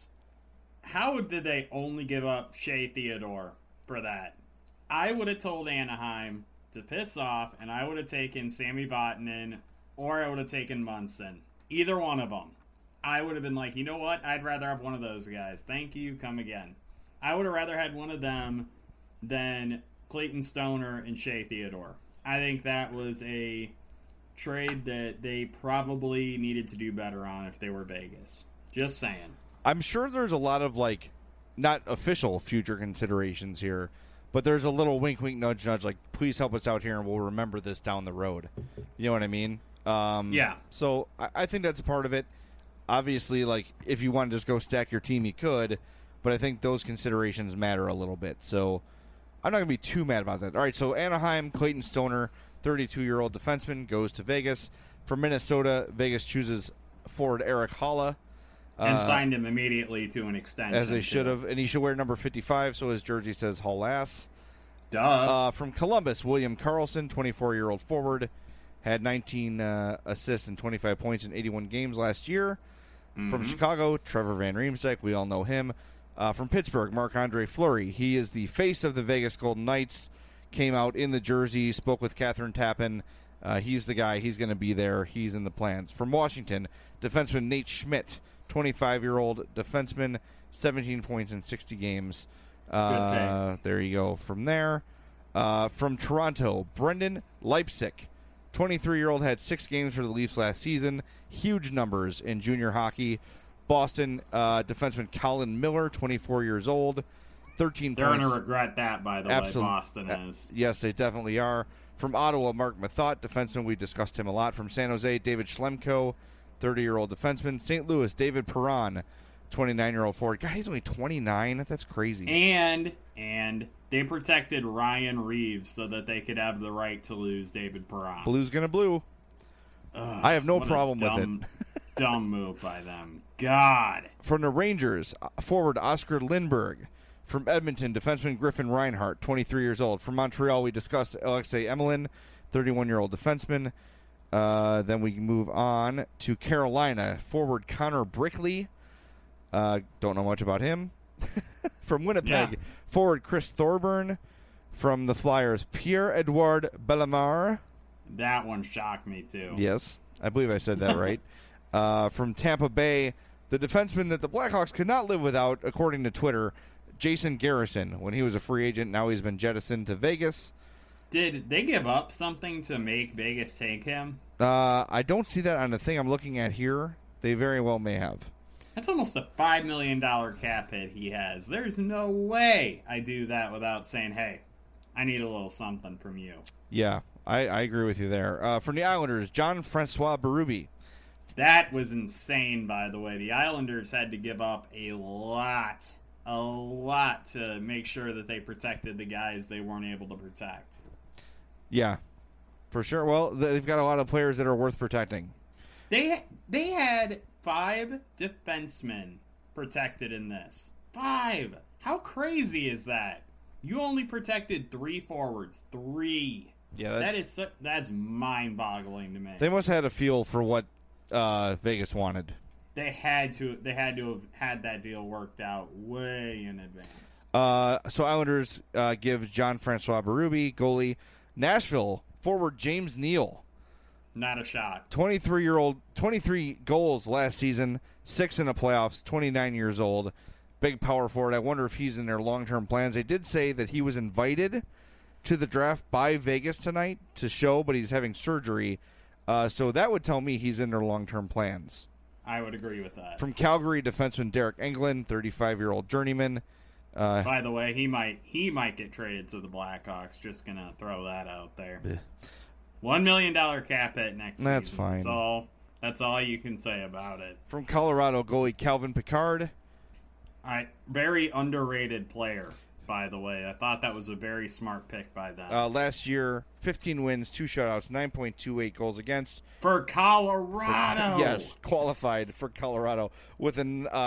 how did they only give up Shea Theodore for that? I would have told Anaheim to piss off, and I would have taken Sami Vatanen, or I would have taken Munson. Either one of them. I would have been like, you know what? I'd rather have one of those guys. Thank you. Come again. I would have rather had one of them than Clayton Stoner and Shea Theodore. I think that was a trade that they probably needed to do better on if they were Vegas. Just saying. I'm sure there's a lot of, not official future considerations here, but there's a little wink, wink, nudge, nudge, please help us out here and we'll remember this down the road. You know what I mean? Yeah. So I think that's a part of it. Obviously, if you want to just go stack your team, you could, but I think those considerations matter a little bit. So I'm not going to be too mad about that. All right, so Anaheim, Clayton Stoner, 32-year-old defenseman, goes to Vegas. For Minnesota, Vegas chooses forward Eric Haula. And signed him immediately to an extension. As they should have. And he should wear number 55, so his jersey says Hull Ass. Duh. From Columbus, William Karlsson, 24-year-old forward, had 19 assists and 25 points in 81 games last year. Mm-hmm. From Chicago, Trevor Van Riemsdyk, we all know him. From Pittsburgh, Marc-Andre Fleury. He is the face of the Vegas Golden Knights. Came out in the jersey, spoke with Catherine Tappan. He's the guy. He's going to be there. He's in the plans. From Washington, defenseman Nate Schmidt, 25-year-old defenseman, 17 points in 60 games. There you go. From there, from Toronto, Brendan Leipsic, 23-year-old, had 6 games for the Leafs last season. Huge numbers in junior hockey. Boston defenseman Colin Miller, 24 years old, 13 They're points. They're going to regret that, by the way, Boston is. Yes, they definitely are. From Ottawa, Mark Mathot, defenseman. We discussed him a lot. From San Jose, David Schlemko, 30-year-old defenseman. St. Louis, David Perron, 29-year-old forward. God, he's only 29. That's crazy. And they protected Ryan Reeves so that they could have the right to lose David Perron. Blue's going to blue. Ugh, I have no problem with it. Dumb move by them. God. From the Rangers, forward Oscar Lindberg. From Edmonton, defenseman Griffin Reinhart, 23 years old. From Montreal, we discussed Alexei Emelin, 31-year-old defenseman. Then we move on to Carolina, forward Connor Brickley. Don't know much about him. From Winnipeg, forward Chris Thorburn. From the Flyers, Pierre-Edouard Bellemare. That one shocked me, too. Yes, I believe I said that right. From Tampa Bay, the defenseman that the Blackhawks could not live without, according to Twitter, Jason Garrison. When he was a free agent, now he's been jettisoned to Vegas. Did they give up something to make Vegas take him? I don't see that on the thing I'm looking at here. They very well may have. That's almost a $5 million cap hit he has. There's no way I do that without saying, hey, I need a little something from you. Yeah, I agree with you there. From the Islanders, Jean-Francois Berube. That was insane, by the way. The Islanders had to give up a lot to make sure that they protected the guys they weren't able to protect. Yeah, for sure. Well, they've got a lot of players that are worth protecting. They had 5 defensemen protected in this. 5! How crazy is that? You only protected 3 forwards. 3. Yeah, that's mind-boggling to me. They must have had a feel for what Vegas wanted. They had to have had that deal worked out way in advance. So Islanders give Jean-Francois Berube, goalie. Nashville forward James Neal. Not a shot. 23 goals last season, 6 in the playoffs, 29 years old. Big power forward. I wonder if he's in their long-term plans. They did say that he was invited to the draft by Vegas tonight to show, but he's having surgery. So that would tell me he's in their long-term plans. I would agree with that. From Calgary, defenseman Derek Englund, 35-year-old journeyman. By the way, he might get traded to the Blackhawks. Just gonna throw that out there. $1 million cap hit next season. That's fine. That's all you can say about it. From Colorado, goalie Calvin Pickard. Very underrated player, by the way. I thought that was a very smart pick by them. Last year, 15 wins, 2 shutouts, 9.28 goals against. For Colorado! Yes, qualified for Colorado with a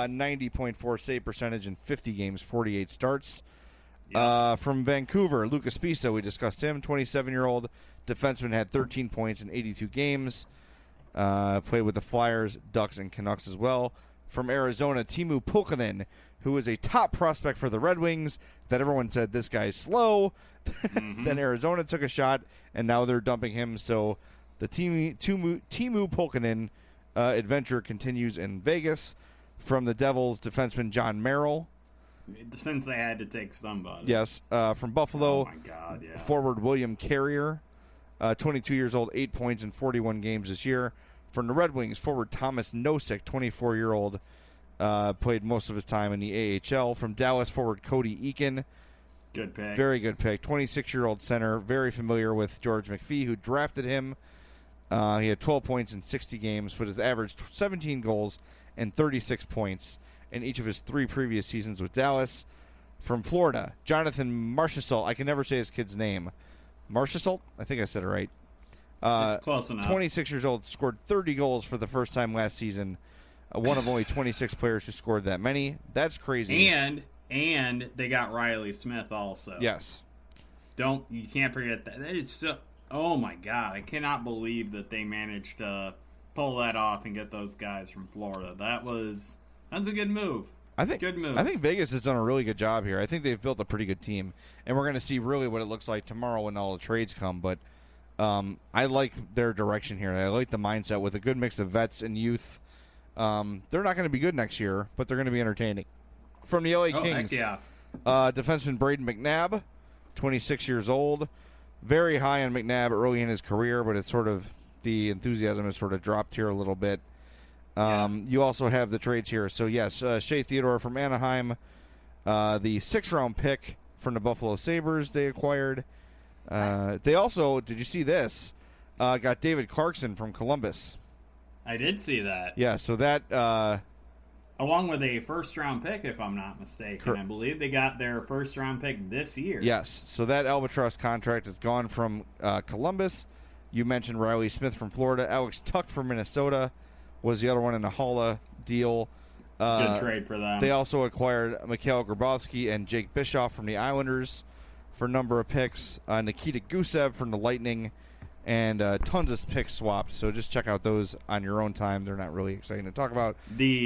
90.4 save percentage in 50 games, 48 starts. Yep. From Vancouver, Lucas Pisa, we discussed him, 27-year-old defenseman, had 13 points in 82 games. Played with the Flyers, Ducks, and Canucks as well. From Arizona, Teemu Pukkanen, who is a top prospect for the Red Wings, that everyone said this guy's slow. Mm-hmm. Then Arizona took a shot, and now they're dumping him. So the Teemu Pukkanen adventure continues in Vegas. From the Devils, defenseman John Merrill. Since they had to take somebody. Yes. From Buffalo, oh my God, yeah. Forward William Carrier, 22 years old, 8 points in 41 games this year. From the Red Wings, forward Thomas Nosek, 24-year-old, played most of his time in the AHL. From Dallas, forward Cody Eakin. Good pick. Very good pick. 26-year-old center, very familiar with George McPhee, who drafted him. He had 12 points in 60 games, but has averaged 17 goals and 36 points in each of his 3 previous seasons with Dallas. From Florida, Jonathan Marchessault. I can never say his kid's name. Marchessault? I think I said it right. Close enough. 26 years old, scored 30 goals for the first time last season. One of only 26 players who scored that many. That's crazy. And they got Riley Smith also. Yes. You can't forget that. It's still, oh my God, I cannot believe that they managed to pull that off and get those guys from Florida. That's a good move. Good move. I think Vegas has done a really good job here. I think they've built a pretty good team, and we're going to see really what it looks like tomorrow when all the trades come. But I like their direction here. I like the mindset with a good mix of vets and youth. They're not going to be good next year, but they're going to be entertaining. From the LA Kings, heck yeah. Defenseman Braden McNabb, 26 years old. Very high on McNabb early in his career, but it's sort of the enthusiasm has sort of dropped here a little bit. You also have the trades here. So, yes, Shea Theodore from Anaheim, the 6th-round pick from the Buffalo Sabres they acquired. They also, did you see this, got David Clarkson from Columbus. I did see that. Yeah, so that... along with a first-round pick, if I'm not mistaken. I believe they got their first-round pick this year. Yes, so that Albatross contract has gone from Columbus. You mentioned Riley Smith from Florida. Alex Tuck from Minnesota was the other one in the Holla deal. Good trade for them. They also acquired Mikhail Grabowski and Jake Bischoff from the Islanders for a number of picks. Nikita Gusev from the Lightning, and tons of picks swapped. So just check out those on your own time. They're not really exciting to talk about.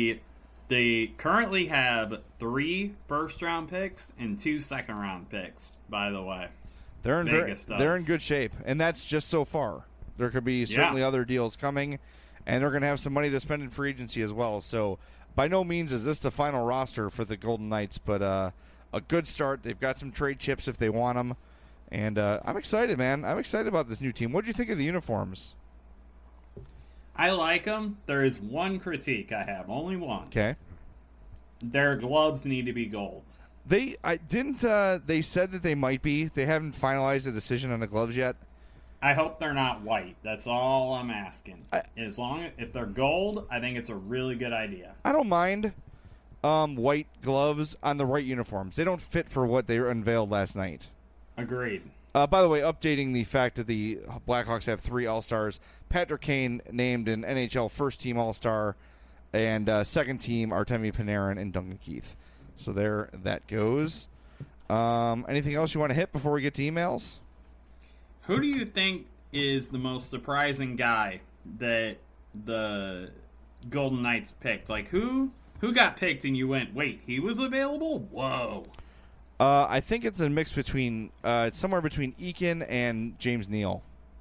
They currently have 3 first-round picks and 2 second-round picks, by the way. They're in good shape, and that's just so far. There could be certainly other deals coming, and they're going to have some money to spend in free agency as well. So by no means is this the final roster for the Golden Knights, but a good start. They've got some trade chips if they want them. And I'm excited, man. I'm excited about this new team. What do you think of the uniforms? I like them. There is one critique I have, only one. Okay. Their gloves need to be gold. They said that they might be. They haven't finalized a decision on the gloves yet. I hope they're not white. That's all I'm asking. If they're gold, I think it's a really good idea. I don't mind white gloves on the right uniforms. They don't fit for what they unveiled last night. Agreed. By the way, updating the fact that the Blackhawks have 3 All-Stars. Patrick Kane named an NHL first-team All-Star, and second team Artemi Panarin and Duncan Keith. So there that goes. Anything else you want to hit before we get to emails? Who do you think is the most surprising guy that the Golden Knights picked? Like, who got picked and you went, wait, he was available? Whoa. I think it's a mix between it's somewhere between Eakin and James Neal.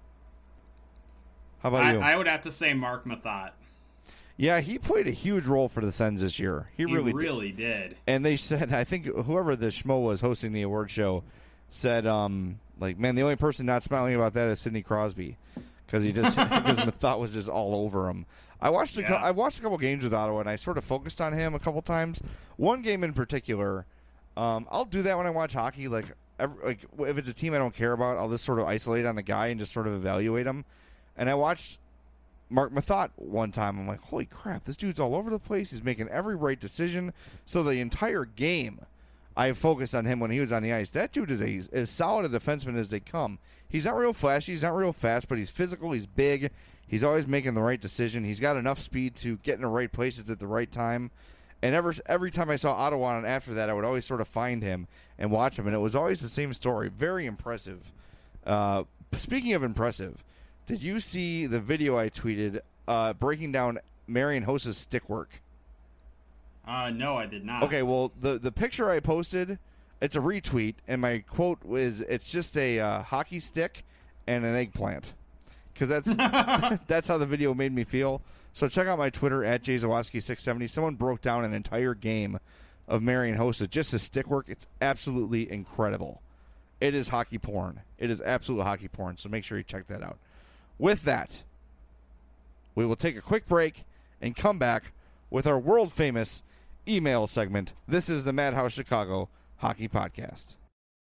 How about you? I would have to say Mark Mathot. Yeah, he played a huge role for the Sens this year. He really did. And they said, I think whoever the schmo was hosting the award show said, like, man, the only person not smiling about that is Sidney Crosby because Mathot was just all over him. I watched a couple games with Ottawa, and I sort of focused on him a couple times. One game in particular, I'll do that when I watch hockey. Like if it's a team I don't care about, I'll just sort of isolate on a guy and just sort of evaluate him. And I watched Mark Mathot one time. I'm like, holy crap, this dude's all over the place. He's making every right decision. So the entire game, I focused on him when he was on the ice. That dude is as solid a defenseman as they come. He's not real flashy. He's not real fast, but he's physical. He's big. He's always making the right decision. He's got enough speed to get in the right places at the right time. And every time I saw Ottawa, and after that, I would always sort of find him and watch him. And it was always the same story. Very impressive. Speaking of impressive, did you see the video I tweeted breaking down Marian Hossa's stick work? No, I did not. Okay, well, the picture I posted, it's a retweet, and my quote was, it's just a hockey stick and an eggplant. Because that's how the video made me feel. So check out my Twitter, at JZawoski670. Someone broke down an entire game of Marian Hossa, just his stick work. It's absolutely incredible. It is hockey porn. It is absolute hockey porn, so make sure you check that out. With that, we will take a quick break and come back with our world-famous email segment. This is the Madhouse Chicago Hockey Podcast.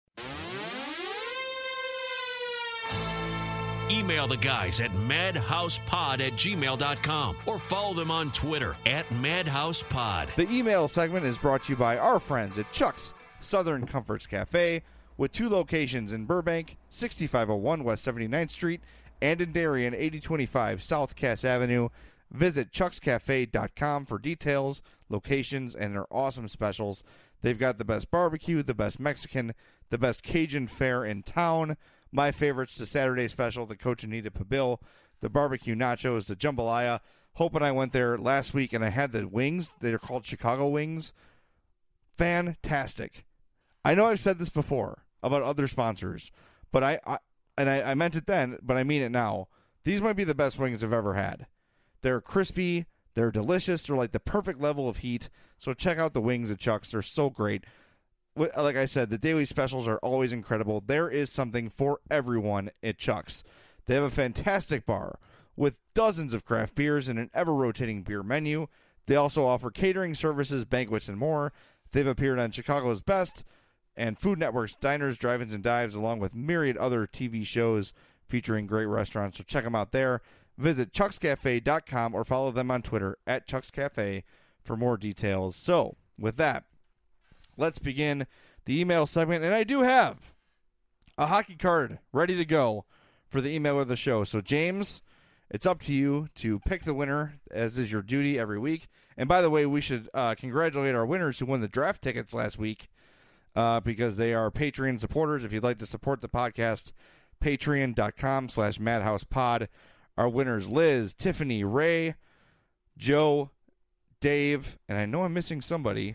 Email the guys at madhousepod@gmail.com or follow them on Twitter at madhousepod. The email segment is brought to you by our friends at Chuck's Southern Comforts Cafe, with 2 locations in Burbank, 6501 West 79th Street, and in Darien, 8025 South Cass Avenue. Visit chuckscafe.com for details, locations, and their awesome specials. They've got the best barbecue, the best Mexican, the best Cajun fare in town. My favorites, the Saturday special, the Cochinita Pibil, the barbecue nachos, the jambalaya. Hope and I went there last week, and I had the wings. They're called Chicago wings. Fantastic. I know I've said this before about other sponsors, but I meant it then, but I mean it now. These might be the best wings I've ever had. They're crispy. They're delicious. They're like the perfect level of heat. So check out the wings at Chuck's. They're so great. Like I said, the daily specials are always incredible. There is something for everyone at Chuck's. They have a fantastic bar with dozens of craft beers and an ever-rotating beer menu. They also offer catering services, banquets, and more. They've appeared on Chicago's Best and Food Network's Diners, Drive-Ins, and Dives, along with myriad other TV shows featuring great restaurants. So check them out there. Visit chuckscafe.com or follow them on Twitter at chuckscafe for more details. So, with that, let's begin the email segment. And I do have a hockey card ready to go for the email of the show. So, James, it's up to you to pick the winner, as is your duty every week. And by the way, we should congratulate our winners who won the draft tickets last week because they are Patreon supporters. If you'd like to support the podcast, patreon.com/madhousepod. Our winners, Liz, Tiffany, Ray, Joe, Dave, and I know I'm missing somebody.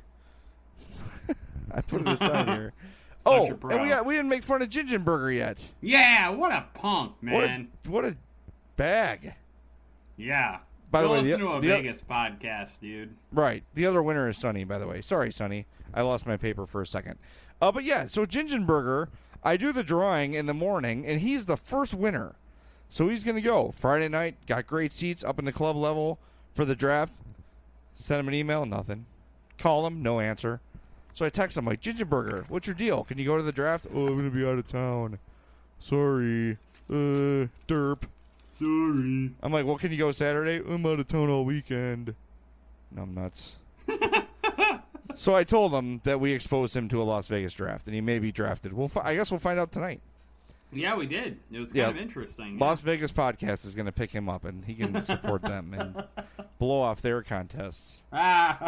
I put it aside here. Oh, and we didn't make fun of Gingenberger yet. Yeah, what a punk, man. What a bag. Yeah. By the way, listen to a Vegas podcast, dude. Right. The other winner is Sonny, by the way. Sorry, Sonny. I lost my paper for a second. But yeah, so Gingenberger, I do the drawing in the morning, and he's the first winner. So he's going to go Friday night, got great seats up in the club level for the draft. Send him an email, nothing. Call him, no answer. So I text him, like, Gingerberger, what's your deal? Can you go to the draft? Oh, I'm going to be out of town. Sorry. Derp. Sorry. I'm like, well, can you go Saturday? I'm out of town all weekend. Numbnuts. So I told him that we exposed him to a Las Vegas draft, and he may be drafted. I guess we'll find out tonight. Yeah, we did. It was kind of interesting. Las Vegas Podcast is going to pick him up, and he can support them and blow off their contests. All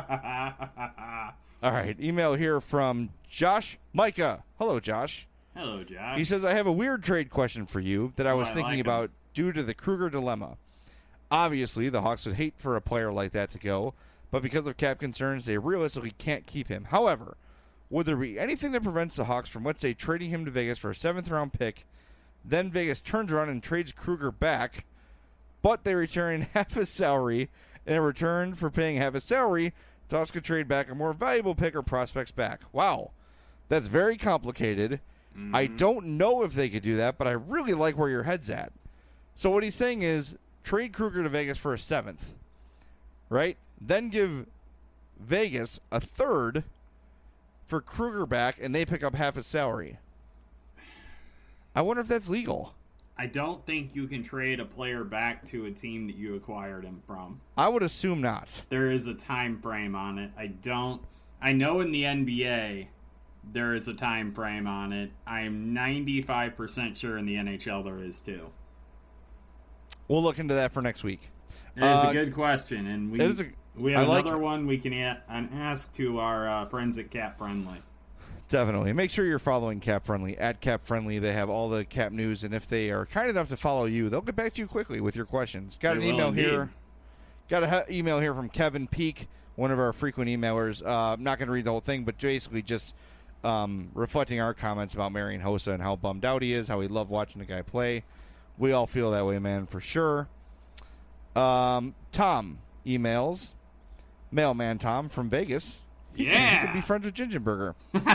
right, email here from Josh Micah. Hello, Josh. Hello, Josh. He says, I have a weird trade question for you that I was thinking like about due to the Kruger dilemma. Obviously, the Hawks would hate for a player like that to go, but because of cap concerns, they realistically can't keep him. However, would there be anything that prevents the Hawks from, let's say, trading him to Vegas for a 7th-round pick, then Vegas turns around and trades Kruger back, but they return half his salary, and in return for paying half his salary, the Hawks could trade back a more valuable pick or prospects back? Wow. That's very complicated. Mm-hmm. I don't know if they could do that, but I really like where your head's at. So what he's saying is trade Kruger to Vegas for a 7th, right? Then give Vegas a 3rd for Kruger back, and they pick up half his salary. I wonder if that's legal. I don't think you can trade a player back to a team that you acquired him from. I would assume not. There is a time frame on it. I know in the NBA there is a time frame on it. I'm 95% sure in the NHL there is too. We'll look into that for next week. It is a good question, and we have like another one we can ask to our friends at Cap Friendly. Definitely. Make sure you're following Cap Friendly. At Cap Friendly, they have all the cap news, and if they are kind enough to follow you, they'll get back to you quickly with your questions. Got an email here from Kevin Peak, one of our frequent emailers. I'm not going to read the whole thing, but basically just reflecting our comments about Marian Hossa and how bummed out he is, how he loved watching the guy play. We all feel that way, man, for sure. Tom emails, Mailman Tom from Vegas. He could be friends with Gingerberger.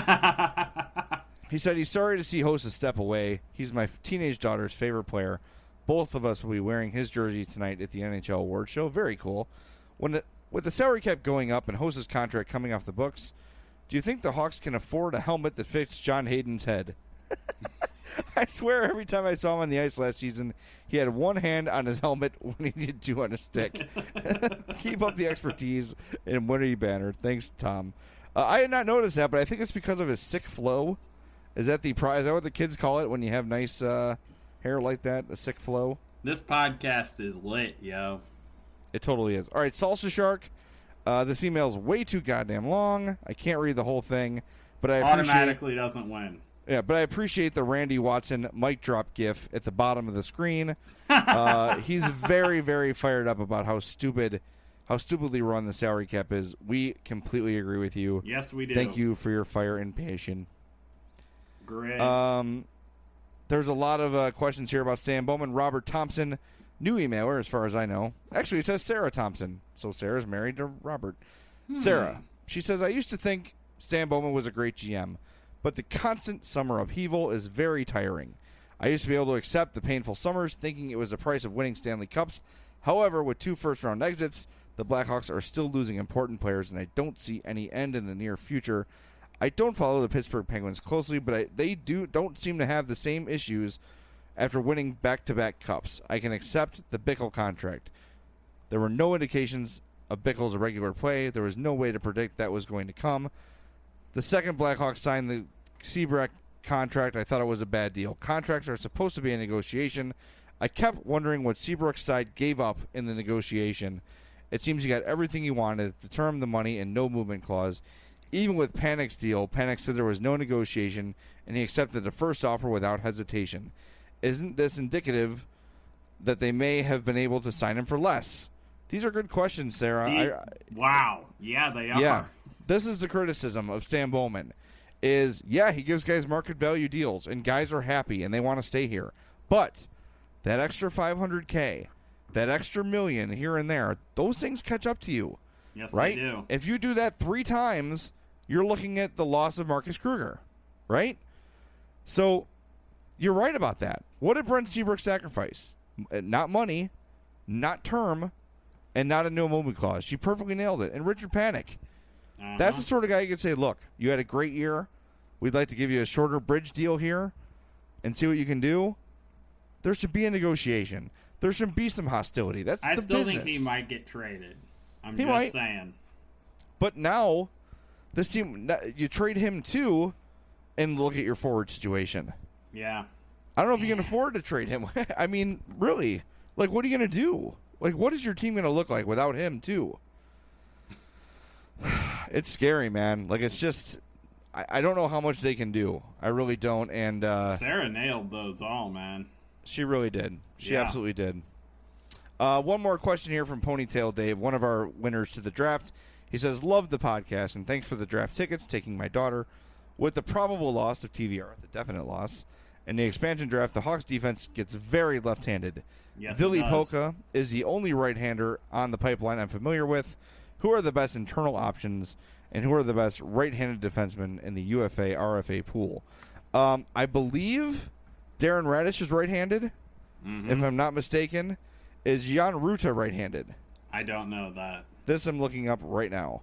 He said he's sorry to see Hossa step away. He's my teenage daughter's favorite player. Both of us will be wearing his jersey tonight at the NHL Awards Show. Very cool. With the salary cap going up and Hossa's contract coming off the books, do you think the Hawks can afford a helmet that fits John Hayden's head? I swear every time I saw him on the ice last season, he had one hand on his helmet when he needed two on his stick. Keep up the expertise and Winnie Banner. Thanks, Tom. I had not noticed that, but I think it's because of his sick flow. Is that what the kids call it when you have nice hair like that, a sick flow? This podcast is lit, yo. It totally is. All right, Salsa Shark. This email's way too goddamn long. I can't read the whole thing, but I automatically doesn't win. Yeah, but I appreciate the Randy Watson mic drop gif at the bottom of the screen. He's very, very fired up about how stupidly run the salary cap is. We completely agree with you. Yes, we do. Thank you for your fire and passion. Great. There's a lot of questions here about Stan Bowman. Robert Thompson, new emailer as far as I know. Actually, it says Sarah Thompson. So Sarah's married to Robert. Sarah, she says, I used to think Stan Bowman was a great GM, but the constant summer upheaval is very tiring. I used to be able to accept the painful summers, thinking it was the price of winning Stanley Cups. However, with 2 first-round exits, the Blackhawks are still losing important players, and I don't see any end in the near future. I don't follow the Pittsburgh Penguins closely, but they don't seem to have the same issues after winning back-to-back Cups. I can accept the Bickle contract. There were no indications of Bickle's irregular play. There was no way to predict that was going to come. The second Blackhawks signed the Seabrook contract, I thought it was a bad deal. Contracts are supposed to be a negotiation. I kept wondering what Seabrook's side gave up in the negotiation. It seems he got everything he wanted, the term, the money, and no movement clause. Even with Panik's deal, Panik said there was no negotiation, and he accepted the first offer without hesitation. Isn't this indicative that they may have been able to sign him for less? These are good questions, Sarah. Wow. Yeah, they are. Yeah. This is the criticism of Stan Bowman. He gives guys market value deals, and guys are happy, and they want to stay here. But that extra $500K, that extra $1 million here and there, those things catch up to you. Yes, right? They do. If you do that 3 times, you're looking at the loss of Marcus Kruger, right? So You're right about that. What did Brent Seabrook sacrifice? Not money, not term, and not a no movement clause. She perfectly nailed it. And Richard Panik. That's the sort of guy you could say, look, you had a great year. We'd like to give you a shorter bridge deal here and see what you can do. There should be a negotiation. There should be some hostility. That's I the still business. think he might get traded. I'm He just might. saying. But now, this team, you trade him too, and look at your forward situation. Yeah. I don't know if you can afford to trade him. I mean, really, like, what are you going to do? Like, what is your team going to look like without him too? It's scary, man. Like, it's just, I don't know how much they can do. I really don't. And Sarah nailed those all, man. she really did. She Yeah. absolutely did. One more question here from Ponytail Dave, one of our winners to the draft. He says, love the podcast, and thanks for the draft tickets, taking my daughter. With the probable loss of TVR, the definite loss, in the expansion draft, the Hawks defense gets very left-handed. Yes, Vili it does. Polka is the only right-hander on the pipeline I'm familiar with. Who are the best internal options, and who are the best right-handed defensemen in the UFA, RFA pool? I believe Darren Radish is right-handed, if I'm not mistaken. Is Jan Ruta right-handed? I don't know that. This I'm looking up right now.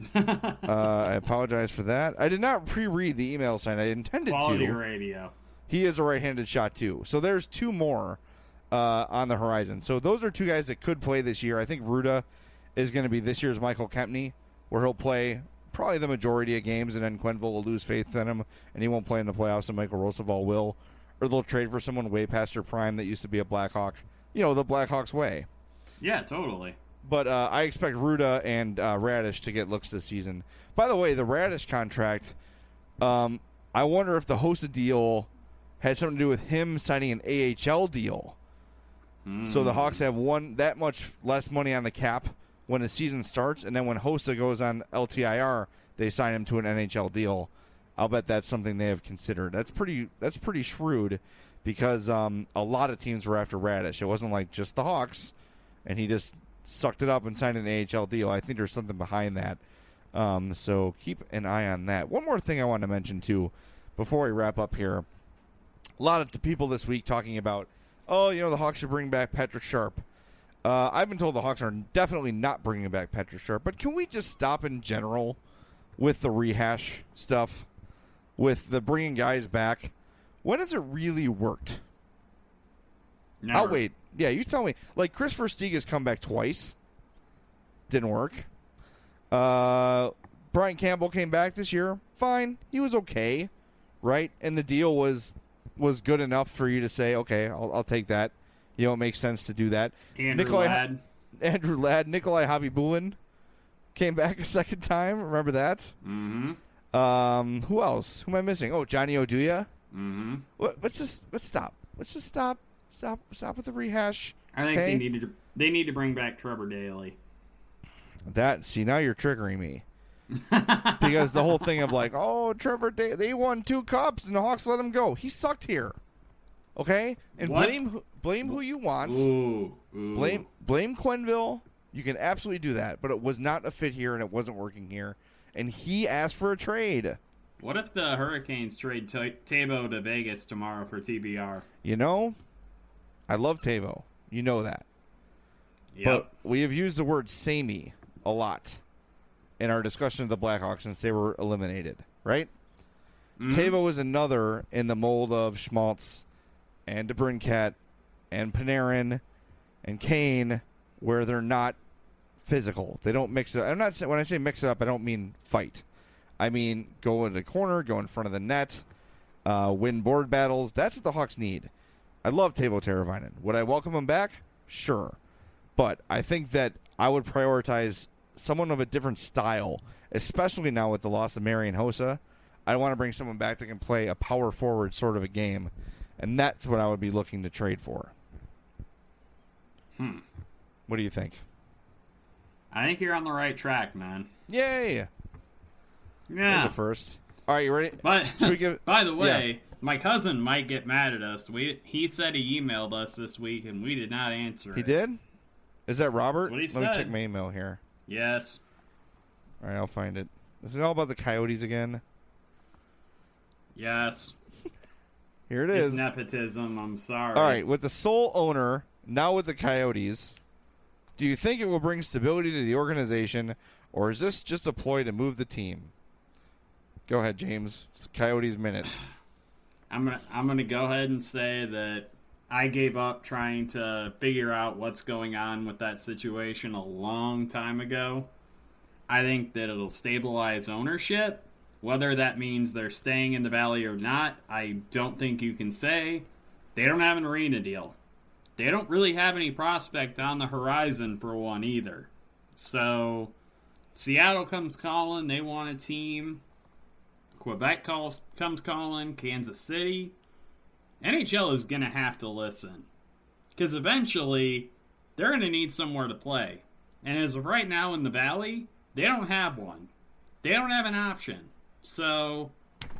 I apologize for that. I did not pre-read the email sign. I intended Quality to. radio. He is a right-handed shot, too. So there's two more on the horizon. So those are two guys that could play this year. I think Ruta is going to be this year's Michael Kempney, where he'll play probably the majority of games, and then Quenneville will lose faith in him, and he won't play in the playoffs, and Michael Roosevelt will. Or they'll trade for someone way past their prime that used to be a Blackhawk. You know, the Blackhawks way. Yeah, totally. But I expect Ruda and Radish to get looks this season. By the way, the Radish contract, I wonder if the Hossa deal had something to do with him signing an AHL deal. So the Hawks have that much less money on the cap when the season starts, and then when Hossa goes on LTIR, they sign him to an NHL deal. I'll bet that's something they have considered. That's pretty shrewd, because a lot of teams were after Radish. It wasn't like just the Hawks, and he just sucked it up and signed an AHL deal. I think there's something behind that. So keep an eye on that. One more thing I want to mention, too, before we wrap up here. A lot of the people this week talking about, the Hawks should bring back Patrick Sharp. I've been told the Hawks are definitely not bringing back Patrick Sharp, but can we just stop in general with the rehash stuff, with the bringing guys back? When has it really worked? Never. I'll wait. Yeah, you tell me. Like, Chris Versteeg has come back twice. Didn't work. Brian Campbell came back this year. Fine. He was okay, right? And the deal was good enough for you to say, okay, I'll take that. It makes sense to do that. Andrew Ladd. Andrew Ladd. Nikolai Habibulin came back a second time. Remember that? Mm-hmm. Who else? Who am I missing? Oh, Johnny Oduya. Mm-hmm. Let's stop. Let's just stop with the rehash. I think okay? they need to bring back Trevor Daley. Now you're triggering me. Because the whole thing of like, Trevor Daley, they won 2 cups and the Hawks let him go. He sucked here. Okay? And What? blame who you want. Ooh. Blame Quenneville. You can absolutely do that, but it was not a fit here and it wasn't working here. And he asked for a trade. What if the Hurricanes trade Tabo to Vegas tomorrow for TBR? I love Tavo. You know that. Yep. But we have used the word samey a lot in our discussion of the Blackhawks since they were eliminated, right? Mhm. Tavo is another in the mold of Schmaltz and DeBrincat and Panarin and Kane, where they're not physical. They don't mix it. When I say mix it up, I don't mean fight. I mean go in the corner, go in front of the net, win board battles. That's what the Hawks need. I love Teuvo Teravainen. Would I welcome him back? Sure. But I think that I would prioritize someone of a different style, especially now with the loss of Marian Hossa. I want to bring someone back that can play a power forward sort of a game, and that's what I would be looking to trade for. What do you think? I think you're on the right track, man. Yay! Yeah. That's a first. All right, you ready? But Should we give? by the way, my cousin might get mad at us. He said he emailed us this week, and we did not answer He it. did? Is that Robert? That's what he Let me said. check my email here. Yes. All right, I'll find it. Is it all about the Coyotes again? Yes. Here it It's is. nepotism. I'm sorry. All right, with the sole owner, now with the Coyotes, do you think it will bring stability to the organization, or is this just a ploy to move the team? Go ahead, James. It's Coyotes Minute. I'm gonna go ahead and say that I gave up trying to figure out what's going on with that situation a long time ago. I think that it'll stabilize ownership. Whether that means they're staying in the Valley or not, I don't think you can say. They don't have an arena deal. They don't really have any prospect on the horizon for one either. So, Seattle comes calling. They want a team. Quebec comes calling. Kansas City. NHL is going to have to listen. Because eventually, they're going to need somewhere to play. And as of right now in the Valley, they don't have one. They don't have an option. So,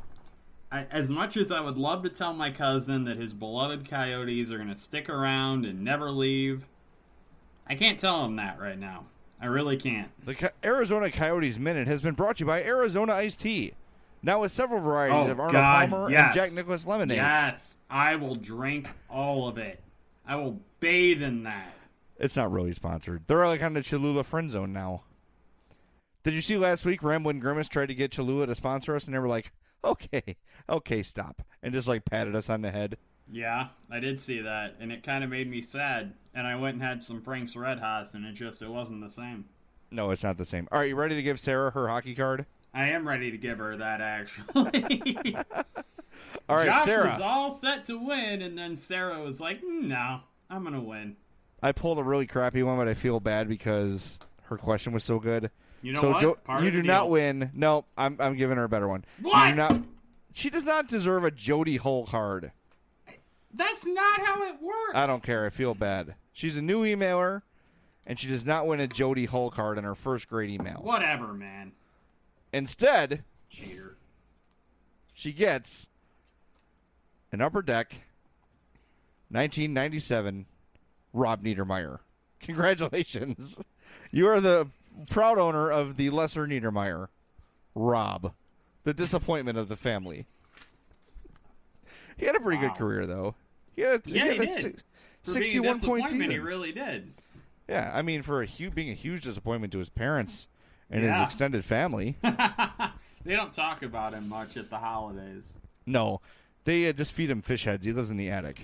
as much as I would love to tell my cousin that his beloved Coyotes are going to stick around and never leave, I can't tell him that right now. I really can't. The Arizona Coyotes Minute has been brought to you by Arizona Iced Tea. Now with several varieties of Arnold Palmer and Jack Nicklaus lemonades. Yes, I will drink all of it. I will bathe in that. It's not really sponsored. They're like on the Cholula friend zone now. Did you see last week Ramblin' Grimace tried to get Cholula to sponsor us, and they were like, okay, stop. And just like patted us on the head. Yeah, I did see that, and it kind of made me sad. And I went and had some Frank's Red Hots, and it wasn't the same. No, it's not the same. All right, you ready to give Sarah her hockey card? I am ready to give her that, actually. All right, Josh Sarah. was all set to win, and then Sarah was like, no, I'm going to win. I pulled a really crappy one, but I feel bad because her question was so good. You know so what? You do not win. No, I'm giving her a better one. What? She does not deserve a Jody Hull card. That's not how it works. I don't care. I feel bad. She's a new emailer, and she does not win a Jody Hull card in her first grade email. Whatever, man. Instead, Cheater. She gets an Upper Deck 1997 Rob Niedermeyer. Congratulations. You are the proud owner of the lesser Niedermeyer, Rob, the disappointment of the family. He had a pretty good career, though. He had he did. 61 point season. He really did. Yeah, I mean, for being a huge disappointment to his parents and his extended family. They don't talk about him much at the holidays. No, they just feed him fish heads. He lives in the attic.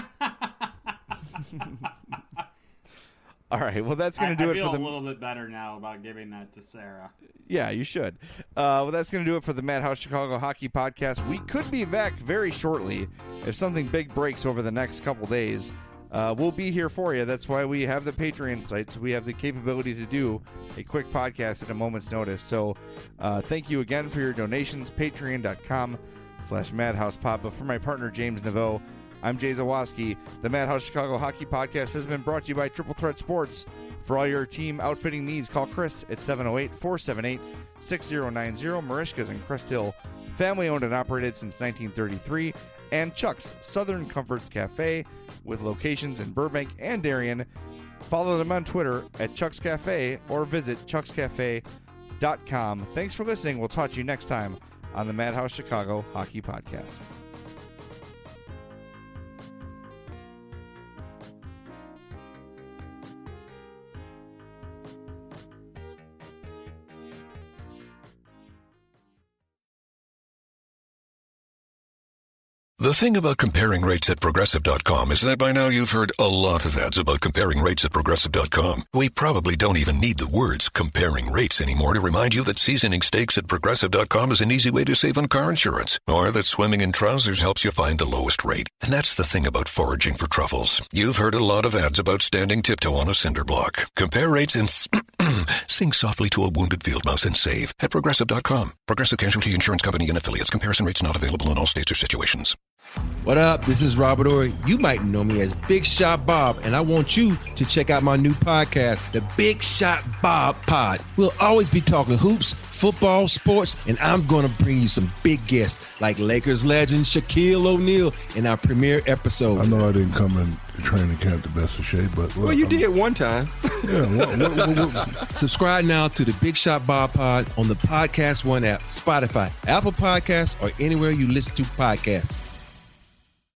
All right, well, that's going to do it for the... I feel a little bit better now about giving that to Sarah. Yeah, you should. Well, that's going to do it for the Madhouse Chicago Hockey Podcast. We could be back very shortly if something big breaks over the next couple days. We'll be here for you. That's why we have the Patreon site, so we have the capability to do a quick podcast at a moment's notice. So thank you again for your donations, patreon.com/MadhousePod. But for my partner, James Naveau, I'm Jay Zawoski. The Madhouse Chicago Hockey Podcast has been brought to you by Triple Threat Sports. For all your team outfitting needs, call Chris at 708-478-6090. Marishka's in Crest Hill, family owned and operated since 1933. And Chuck's Southern Comforts Cafe with locations in Burbank and Darien. Follow them on Twitter at Chuck's Cafe or visit chuckscafe.com. Thanks for listening. We'll talk to you next time on the Madhouse Chicago Hockey Podcast. The thing about comparing rates at Progressive.com is that by now you've heard a lot of ads about comparing rates at Progressive.com. We probably don't even need the words comparing rates anymore to remind you that seasoning steaks at Progressive.com is an easy way to save on car insurance, or that swimming in trousers helps you find the lowest rate. And that's the thing about foraging for truffles. You've heard a lot of ads about standing tiptoe on a cinder block. Compare rates and sing softly to a wounded field mouse and save at Progressive.com. Progressive Casualty Insurance Company and Affiliates. Comparison rates not available in all states or situations. What up? This is Robert Ory. You might know me as Big Shot Bob, and I want you to check out my new podcast, The Big Shot Bob Pod. We'll always be talking hoops, football, sports, and I'm going to bring you some big guests like Lakers legend Shaquille O'Neal in our premiere episode. I know I didn't come in training camp the best of shape, but... Well, you did one time. Yeah, Subscribe now to The Big Shot Bob Pod on the Podcast One app, Spotify, Apple Podcasts, or anywhere you listen to podcasts.